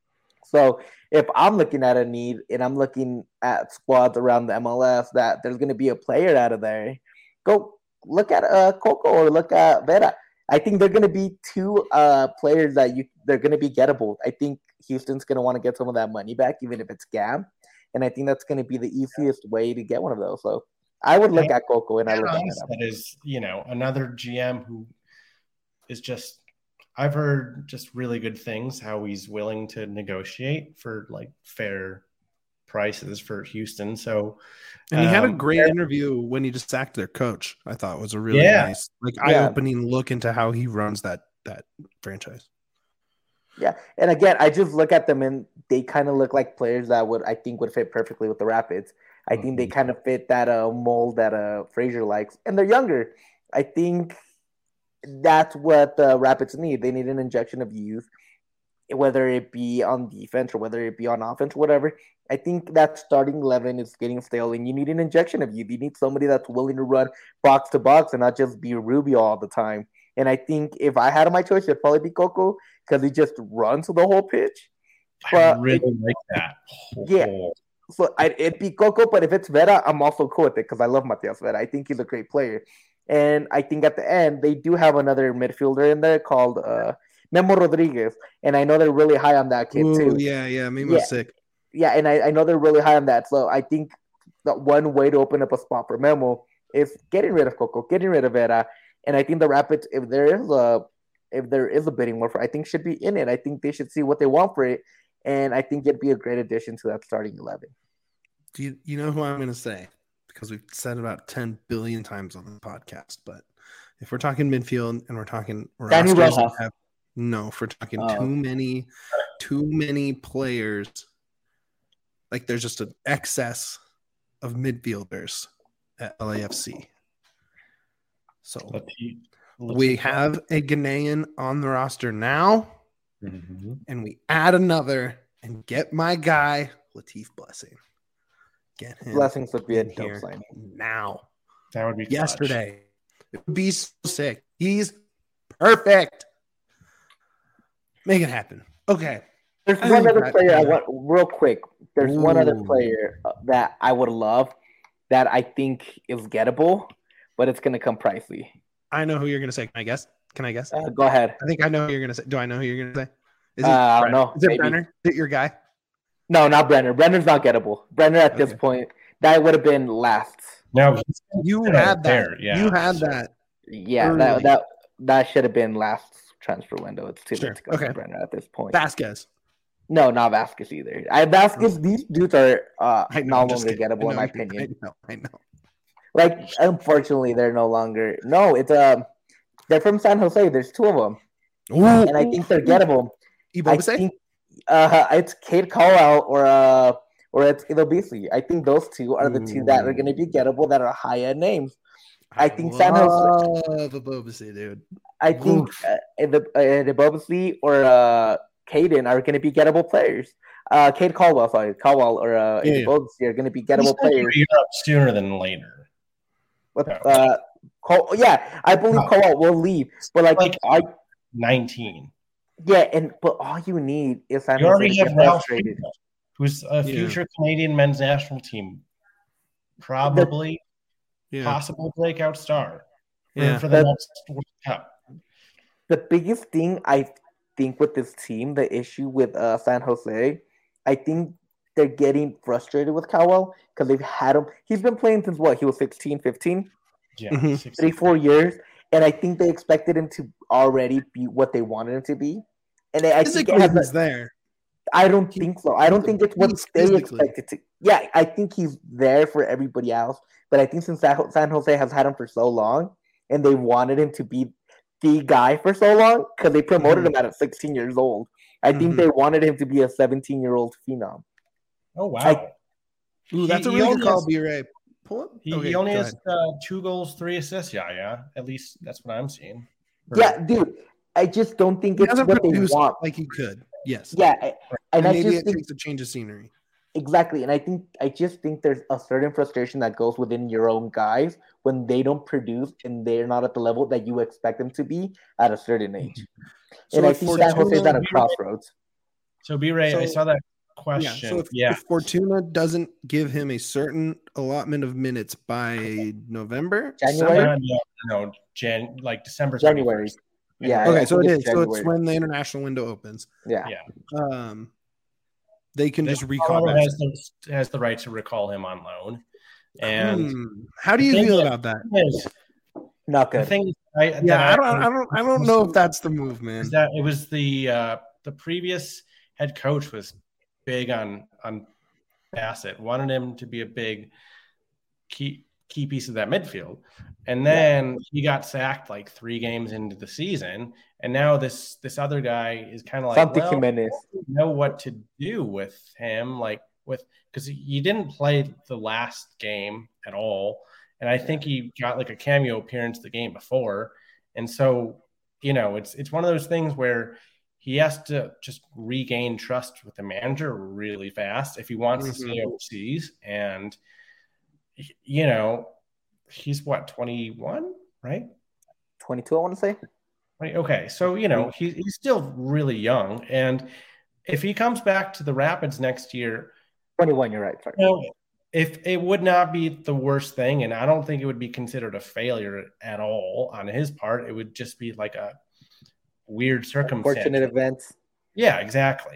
So if I'm looking at a need and I'm looking at squads around the MLS that there's going to be a player out of there, go look at Coco or look at Vera. I think they're going to be two players that they're going to be gettable. I think Houston's going to want to get some of that money back, even if it's GAM. And I think that's going to be the easiest way to get one of those. So I would look at Coco and I look at Vera. That is, another GM who is just, I've heard just really good things, how he's willing to negotiate for fair prices for Houston. So, and he had a great interview when he just sacked their coach. I thought was a really nice, eye-opening look into how he runs that franchise. Yeah, and again, I just look at them and they kind of look like players that would fit perfectly with the Rapids. I think they kind of fit that mold that Frazier likes, and they're younger. I think that's what the Rapids need. They need an injection of youth, whether it be on defense or whether it be on offense, whatever. I think that starting 11 is getting stale, and you need an injection of youth. You need somebody that's willing to run box to box and not just be Rubio all the time. And I think if I had my choice, it'd probably be Coco because he just runs the whole pitch. But I really like that. Yeah. So it'd be Coco, but if it's Vera, I'm also cool with it because I love Matias Vera. I think he's a great player. And I think at the end, they do have another midfielder in there called Memo Rodriguez. And I know they're really high on that kid, too. Yeah. Memo's sick. Yeah, and I know they're really high on that. So I think that one way to open up a spot for Memo is getting rid of Coco, getting rid of Vera. And I think the Rapids, if there is a bidding war for, I think should be in it. I think they should see what they want for it, and I think it'd be a great addition to that starting 11. Do you know who I'm going to say? Because we've said it about 10 billion times on the podcast, but if we're talking midfield and we're talking Danny Rojas. if we're talking too many players, like there's just an excess of midfielders at LAFC. So we have a Ghanaian on the roster now, and we add another and get my guy, Latif Blessing. Get him. Blessings would be a in dope here sign. now. That would be clutch. Yesterday. It would be so sick. He's perfect. Make it happen. Okay. There's one other player I want real quick. There's one other player that I would love that I think is gettable, but it's going to come pricey. I know who you're going to say. Can I guess? Go ahead. I think I know who you're going to say. Do I know who you're going to say? Is I don't know. Is it Brenner? Is it your guy? No, not Brenner. Brenner's not gettable. Brenner at this point, that would have been last. No, you had that. Yeah. You had that. Yeah, that should have been last transfer window. It's too late to go to Brenner at this point. Vasquez. No, not Vasquez either. These dudes are no longer gettable in my opinion. I know. Like, unfortunately, they're no longer. No, it's they're from San Jose. There's two of them, and I think they're gettable. I think it's Cade Caldwell or it's Ido Beasley. I think those two are the two that are going to be gettable that are high end names. I think San Jose. Beasley, dude. I think the Beasley or Caden are going to be gettable players. Cade Caldwell, or Beasley are going to be gettable players. Sooner than later. I believe Caldwell will leave, but like 19. Yeah, but all you need is you already have Ralph Friedel, who's a future Canadian men's national team, probably possible breakout star for the next World Cup. The biggest thing I think with this team, the issue with San Jose, I think they're getting frustrated with Caldwell because they've had him. He's been playing since he was 16, 15? Yeah, 3-4 years. And I think they expected him to already be what they wanted him to be. And I think he's there. I don't think so. I don't think it's what they expected to. Yeah, I think he's there for everybody else. But I think since San Jose has had him for so long and they wanted him to be the guy for so long because they promoted him at 16 years old. I think they wanted him to be a 17-year-old phenom. Oh, wow. That's a really good call, B-Ray. Pull up. He only has 2 goals, 3 assists. Yeah. At least that's what I'm seeing. Yeah, dude. I just don't think it's what they want. Like he could. Yes. Yeah. And I maybe just it takes a change of scenery. Exactly. And I just think there's a certain frustration that goes within your own guys when they don't produce and they're not at the level that you expect them to be at a certain age. And I think San Jose's at a crossroads. So, B-Ray, I saw that question. If Fortuna doesn't give him a certain allotment of minutes by November? January? December. January. Yeah. Okay, so it is. So it's when the international window opens. Yeah. They can just recall him. Has the right to recall him on loan. And how do you feel about that? Not good. The thing I don't know if that's the move, man. That it was the previous head coach was big on Bassett, wanted him to be a big key piece of that midfield. And then he got sacked like 3 games into the season. And now this other guy is kind of like, know what to do with him, because he didn't play the last game at all. And I think he got like a cameo appearance the game before. And so, it's one of those things where he has to just regain trust with the manager really fast if he wants to stay overseas. And he's 21, right? 22, I want to say. Right. Okay. So, he's still really young. And if he comes back to the Rapids next year, 21, you're right. Sorry. If it would not be the worst thing, and I don't think it would be considered a failure at all on his part, it would just be like a weird circumstance. Unfortunate events. Yeah, exactly.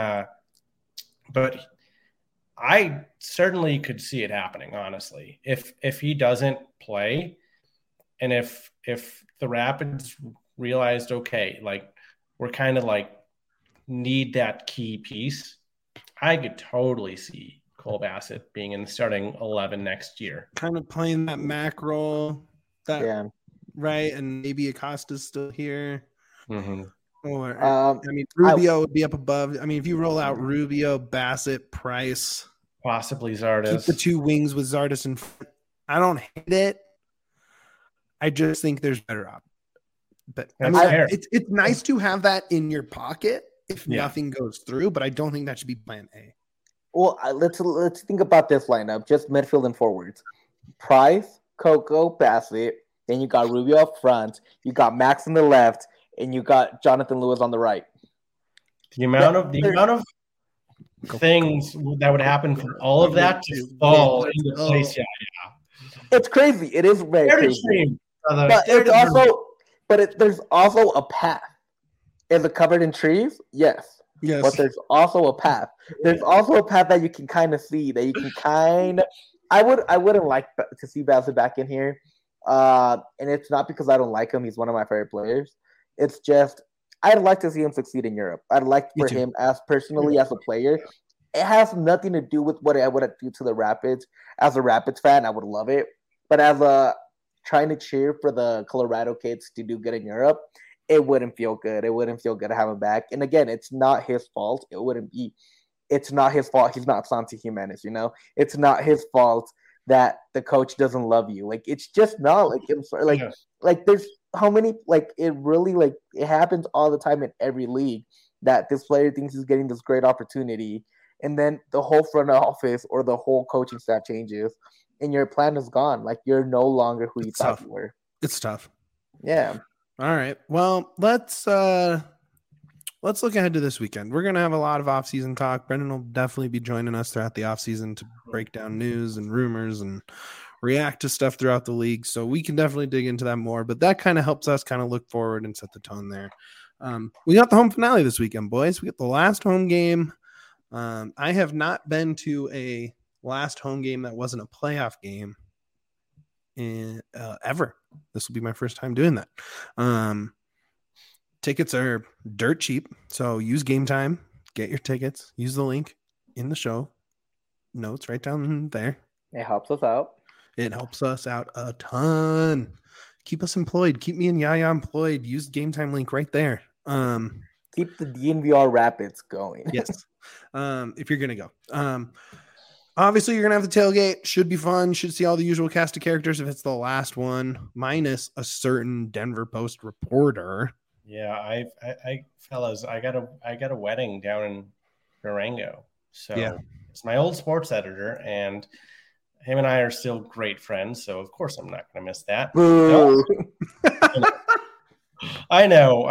But I certainly could see it happening, honestly. If he doesn't play, and if the Rapids realized, okay, like we're kind of like need that key piece, I could totally see Cole Bassett being in the starting 11 next year. Kind of playing that Mac role, right? And maybe Acosta's still here. Mm-hmm. Or Rubio would be up above. I mean, if you roll out Rubio, Bassett, Price, possibly Zardes, keep the 2 wings with Zardes in front. I don't hate it. I just think there's better options. But it's nice to have that in your pocket if nothing goes through. But I don't think that should be plan A. Well, let's think about this lineup. Just midfield and forwards. Price, Coco, Bassett. Then you got Rubio up front. You got Max on the left, and you got Jonathan Lewis on the right. The amount of things that would happen for all of that to fall into place. Yeah. It's crazy. It is very crazy. There's also a path. Is it covered in trees? Yes. Yes. But there's also a path. There's also a path that you can kind of see. That you can kind of. I wouldn't like to see Bassett back in here. And it's not because I don't like him. He's one of my favorite players. It's just I'd like to see him succeed in Europe. I'd like for him as personally as a player. It has nothing to do with what I would do to the Rapids. As a Rapids fan, I would love it. But as a trying to cheer for the Colorado kids to do good in Europe, it wouldn't feel good. It wouldn't feel good to have him back. And again, it's not his fault. It's not his fault. He's not Santi Jimenez, you know? It's not his fault that the coach doesn't love you. Like, it's just not like there's how many, like, it really, like, it happens all the time in every league that this player thinks he's getting this great opportunity. And then the whole front office or the whole coaching staff changes and your plan is gone. Like, you're no longer who you thought you were. It's tough. Yeah. All right. Well, let's look ahead to this weekend. We're going to have a lot of off-season talk. Brendan will definitely be joining us throughout the off-season to break down news and rumors and react to stuff throughout the league. So we can definitely dig into that more, but that kind of helps us kind of look forward and set the tone there. We got the home finale this weekend, boys. We got the last home game. I have not been to a last home game that wasn't a playoff game ever. This will be my first time doing that. Tickets are dirt cheap, so use Game Time. Get your tickets. Use the link in the show notes right down there. It helps us out. It helps us out a ton. Keep us employed. Keep me and Yaya employed. Use the Game Time link right there. Keep the DNVR Rapids going. Yes. If you're going to go. Obviously, you're going to have the tailgate. Should be fun. Should see all the usual cast of characters if it's the last one, minus a certain Denver Post reporter. Yeah, I fellas, I got a wedding down in Durango. So yeah. It's my old sports editor, and him and I are still great friends. So of course I'm not going to miss that. No. I know.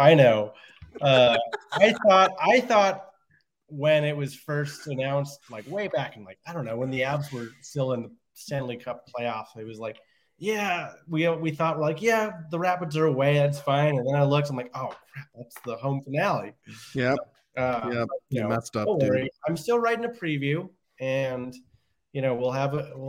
I thought when it was first announced, like way back in, like, I don't know, when the Avs were still in the Stanley Cup playoffs, it was like, yeah, we thought, like, yeah, the Rapids are away, that's fine. And then I looked, I'm like, oh crap, that's the home finale. Yep. You messed up. Don't worry. I'm still writing a preview, and we'll have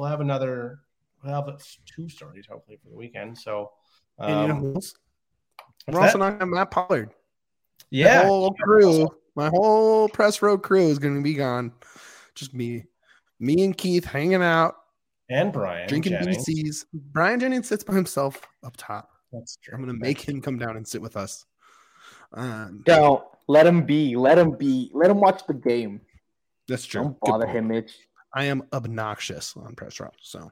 two stories hopefully for the weekend. So we're also not having Matt Pollard. Yeah, my whole press row crew is going to be gone. Just me and Keith hanging out. And Brian drinking Jennings. BCs. Brian Jennings sits by himself up top. That's true. I'm going to make him come down and sit with us. Don't let him be. Let him watch the game. That's true. Don't bother him, Mitch. I am obnoxious on press row. So,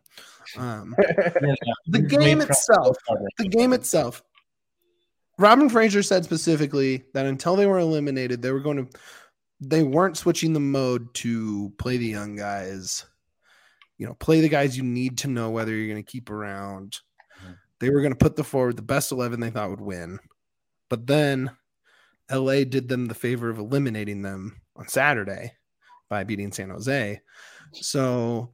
the game itself. Robin Fraser said specifically that until they were eliminated, they weren't switching the mode to play the young guys. Play the guys you need to know whether you're going to keep around. Mm-hmm. They were going to put the best 11 they thought would win. But then LA did them the favor of eliminating them on Saturday by beating San Jose. So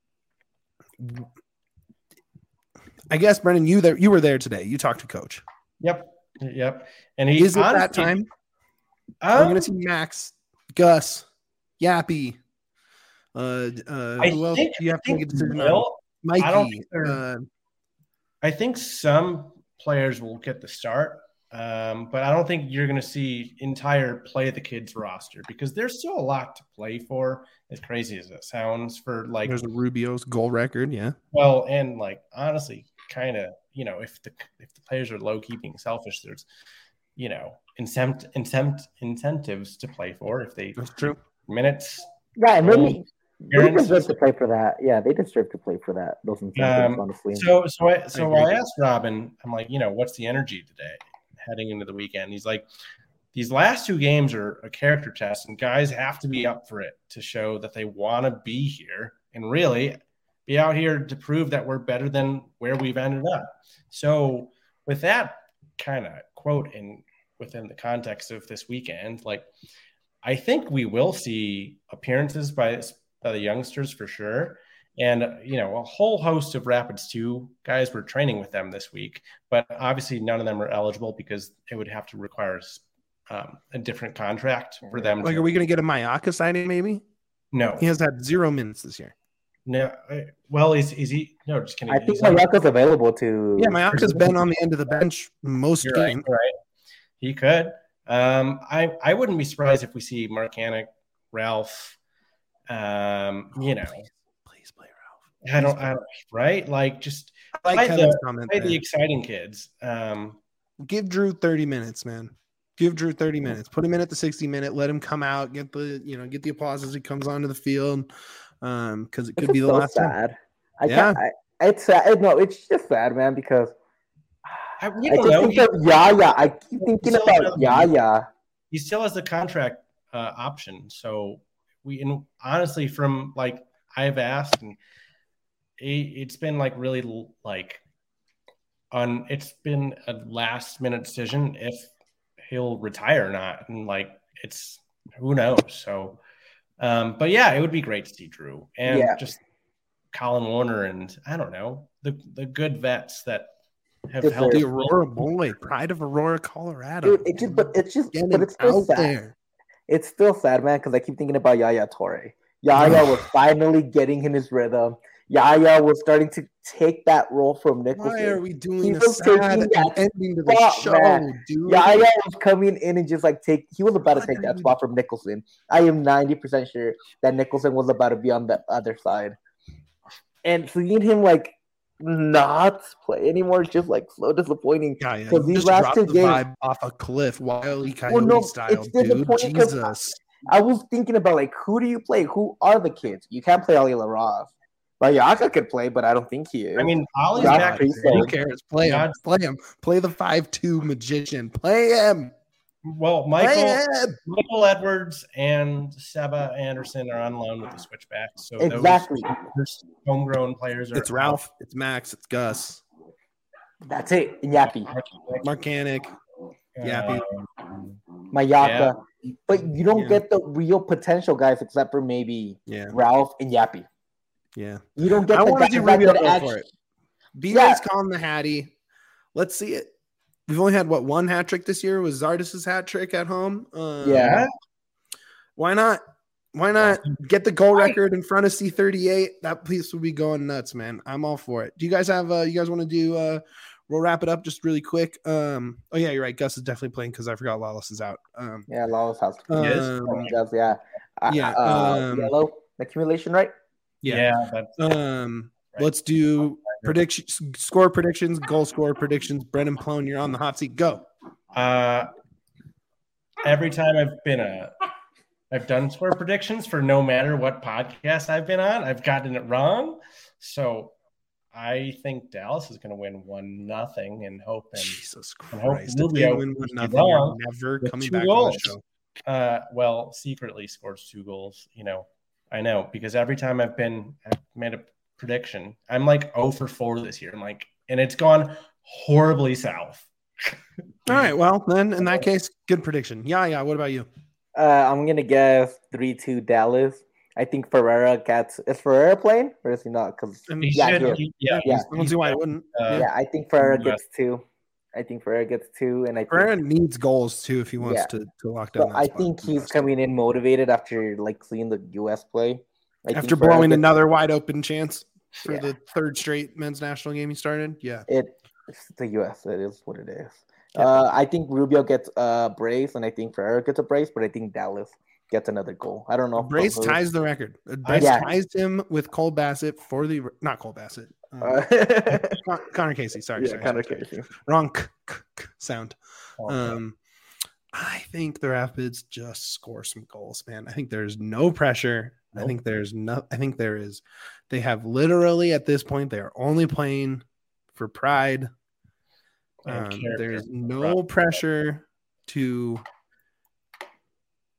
I guess, Brendan, you were there today. You talked to Coach. Yep. And is it that time? We're going to see Max, Gus, Yappy. Who else do you have to make a decision on? Mikey. I think some players will get the start, but I don't think you're going to see entire play the kids roster because there's still a lot to play for. As crazy as it sounds, for like there's a Rubio's goal record, yeah. Well, and like honestly, kind of if the players are low key being selfish, there's incentives to play for if they. That's true. Minutes. Right, really. They deserve to play for that. Yeah, they deserve to play for that. Those incentives, honestly. So I asked Robin, I'm like, what's the energy today heading into the weekend? He's like, these last 2 games are a character test, and guys have to be up for it to show that they want to be here and really be out here to prove that we're better than where we've ended up. So with that kind of quote within the context of this weekend, like, I think we will see appearances by the youngsters for sure. And, a whole host of Rapids 2 guys were training with them this week, but obviously none of them are eligible because it would have to require a different contract for them. Like, are we going to get a Mayaka signing maybe? No. He has had 0 minutes this year. No. Well, is he? No, just kidding. I think Mayaka's available to. Yeah, Mayaka's been on the end of the bench most games. Right. He could. I wouldn't be surprised if we see Marcanic, Ralph, Please play Ralph. I don't right? Like, just like play the exciting kids. Give Drew 30 minutes, man. Give Drew 30 minutes. Put him in at the 60-minute. Let him come out. Get the applause as he comes onto the field. Because it could be the last sad. time. It's sad. No, it's just sad, man, because I think of Yaya. I keep thinking about Yaya. He still has the contract option. So honestly, from like I've asked, and it's been like really like it's been a last minute decision if he'll retire or not, and like it's who knows. So, but yeah, it would be great to see Drew and just Colin Warner and I don't know the good vets that have helped. The Aurora boy, pride of Aurora, Colorado. Dude, it's still sad. There. It's still sad, man, because I keep thinking about Yaya Toure. Yaya was finally getting in his rhythm. Yaya was starting to take that role from Nicholson. Why are we doing a sad ending to the show, man. Dude? Yaya was coming in and just like he was about to take that spot from Nicholson. I am 90% sure that Nicholson was about to be on the other side. And seeing him like not play anymore is just like so disappointing. Because these last 2 games vibe off a cliff, Wile E. Coyote style, dude. Jesus. I was thinking about like who do you play? Who are the kids? You can't play Ali LaRoth. Mayaka could play, but I don't think he is. I mean, Ollie's back. Who cares? Play him. Play him. Play the 5'2" magician. Play him. Well, Michael Edwards and Seba Anderson are on loan with the Switchbacks. So exactly. Those homegrown players are. It's Ralph. It's Max. It's Gus. That's it. And Yappy. Marcanic. Yappy. Mayaka. Yeah. But you don't get the real potential guys except for maybe Ralph and Yappy. Yeah. You don't get I want to see Rubio go for it. B-Ray's calling the Hattie. Let's see it. We've only had, one hat trick this year? Was Zardis's hat trick at home? Why not? Why not get the goal record in front of C38? That piece would be going nuts, man. I'm all for it. Do you guys have you guys want to do we'll wrap it up just really quick. Oh yeah, you're right. Gus is definitely playing because I forgot Lawless is out. Lawless has to yellow accumulation, right? Let's do predictions, score predictions, goal score predictions. Brendan Plone, you're on the hot seat. Go. Every time I've done score predictions for no matter what podcast I've been on, I've gotten it wrong. So I think Dallas is going to win 1-0 and hope. Jesus Christ! If they win 1-0, you're never coming back on the show. Well, secretly scores 2 goals. I know because every time I've made a prediction, I'm like 0 for 4 this year. And it's gone horribly south. All right. Well, then in that case, good prediction. Yeah. What about you? I'm gonna guess 3-2 Dallas. I think Ferreira gets. Is Ferreira playing or is he not? Because I don't see why it wouldn't. I think Ferreira gets 2. And Ferreira needs goals too if he wants to lock down. So I think he's coming in motivated after seeing the U.S. play. After blowing another wide open chance for the 3rd straight men's national game he started. Yeah, it's the U.S. It is what it is. I think Rubio gets a brace, and I think Ferreira gets a brace, but I think Dallas gets another goal. I don't know. Brace ties the record. Brace ties him with Cole Bassett for the not Cole Bassett. Connor Casey. Sorry. Connor Casey. Wrong sound. I think the Rapids just score some goals, man. I think there's no pressure. Nope. I think there is. They have literally at this point they are only playing for pride. There's no pressure to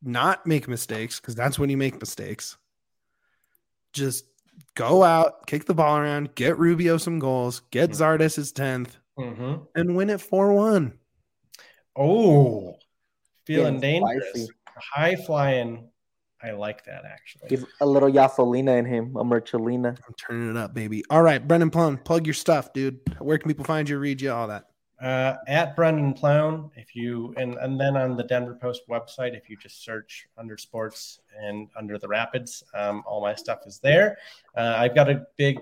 not make mistakes, because that's when you make mistakes. Just go out, kick the ball around, get Rubio some goals, get Zardes his 10th, and win it 4-1. Oh, feeling dangerous. Spicy. High flying. I like that, actually. He's a little Yasolina in him, a Mercholina. I'm turning it up, baby. All right, Brendan Plone, plug your stuff, dude. Where can people find you, read you, all that? At Brendan Plone, if you and then on the Denver Post website, if you just search under sports and under the Rapids, all my stuff is there. I've got a big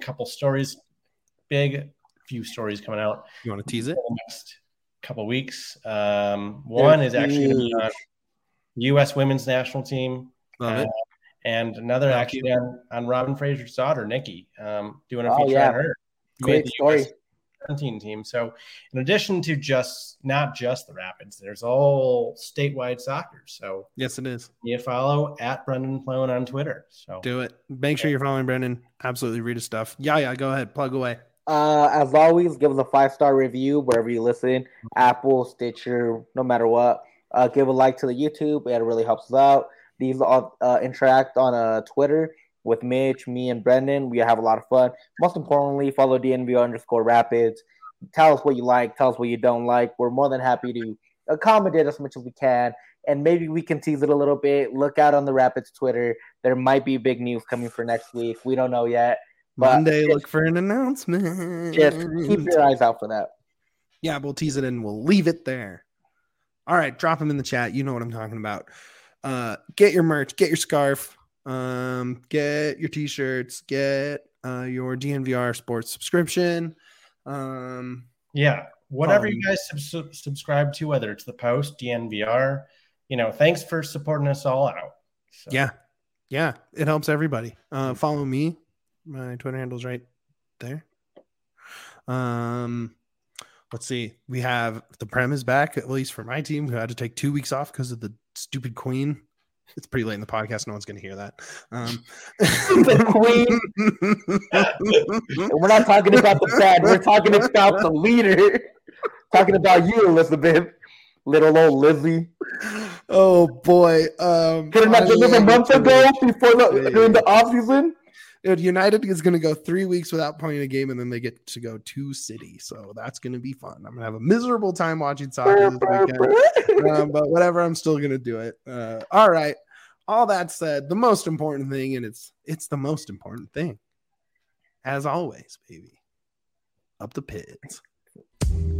few stories coming out. You want to tease it? The next couple weeks. One is actually on U.S. women's national team. Love it. And another actually on Robin Fraser's daughter, Nikki, doing a feature on her. Great story. 17 team. So in addition to not just the Rapids, there's all statewide soccer. So yes, it is. You follow at Brendan Plone on Twitter. So do it. Make sure you're following Brendan. Absolutely read his stuff. Yeah. Go ahead. Plug away. As always, give us a 5-star review wherever you listen. Apple, Stitcher, no matter what. Give a like to the YouTube. It really helps us out. These all interact on Twitter with Mitch, me, and Brendan. We have a lot of fun. Most importantly, follow DNVR_Rapids. Tell us what you like. Tell us what you don't like. We're more than happy to accommodate as much as we can. And maybe we can tease it a little bit. Look out on the Rapids Twitter. There might be big news coming for next week. We don't know yet. But Monday, look for an announcement. Just keep your eyes out for that. Yeah, we'll tease it and we'll leave it there. All right, drop them in the chat. You know what I'm talking about. Get your merch. Get your scarf. Get your t-shirts, get your DNVR sports subscription. Whatever you guys subscribe to, whether it's the Post, DNVR, thanks for supporting us all out. So. Yeah, it helps everybody. Follow me. My Twitter handle's right there. Let's see. We have the Prem is back, at least for my team, who had to take 2 weeks off because of the stupid Queen. It's pretty late in the podcast. No one's going to hear that. The Queen. We're not talking about the bad. We're talking about the leader. Talking about you, Elizabeth. Little old Lizzie. Oh, boy. Could have not done this a month ago during the offseason? Dude, United is going to go 3 weeks without playing a game, and then they get to go to City. So that's going to be fun. I'm going to have a miserable time watching soccer this weekend. But whatever, I'm still going to do it. All right. All that said, the most important thing, and it's the most important thing, as always, baby, up the pits.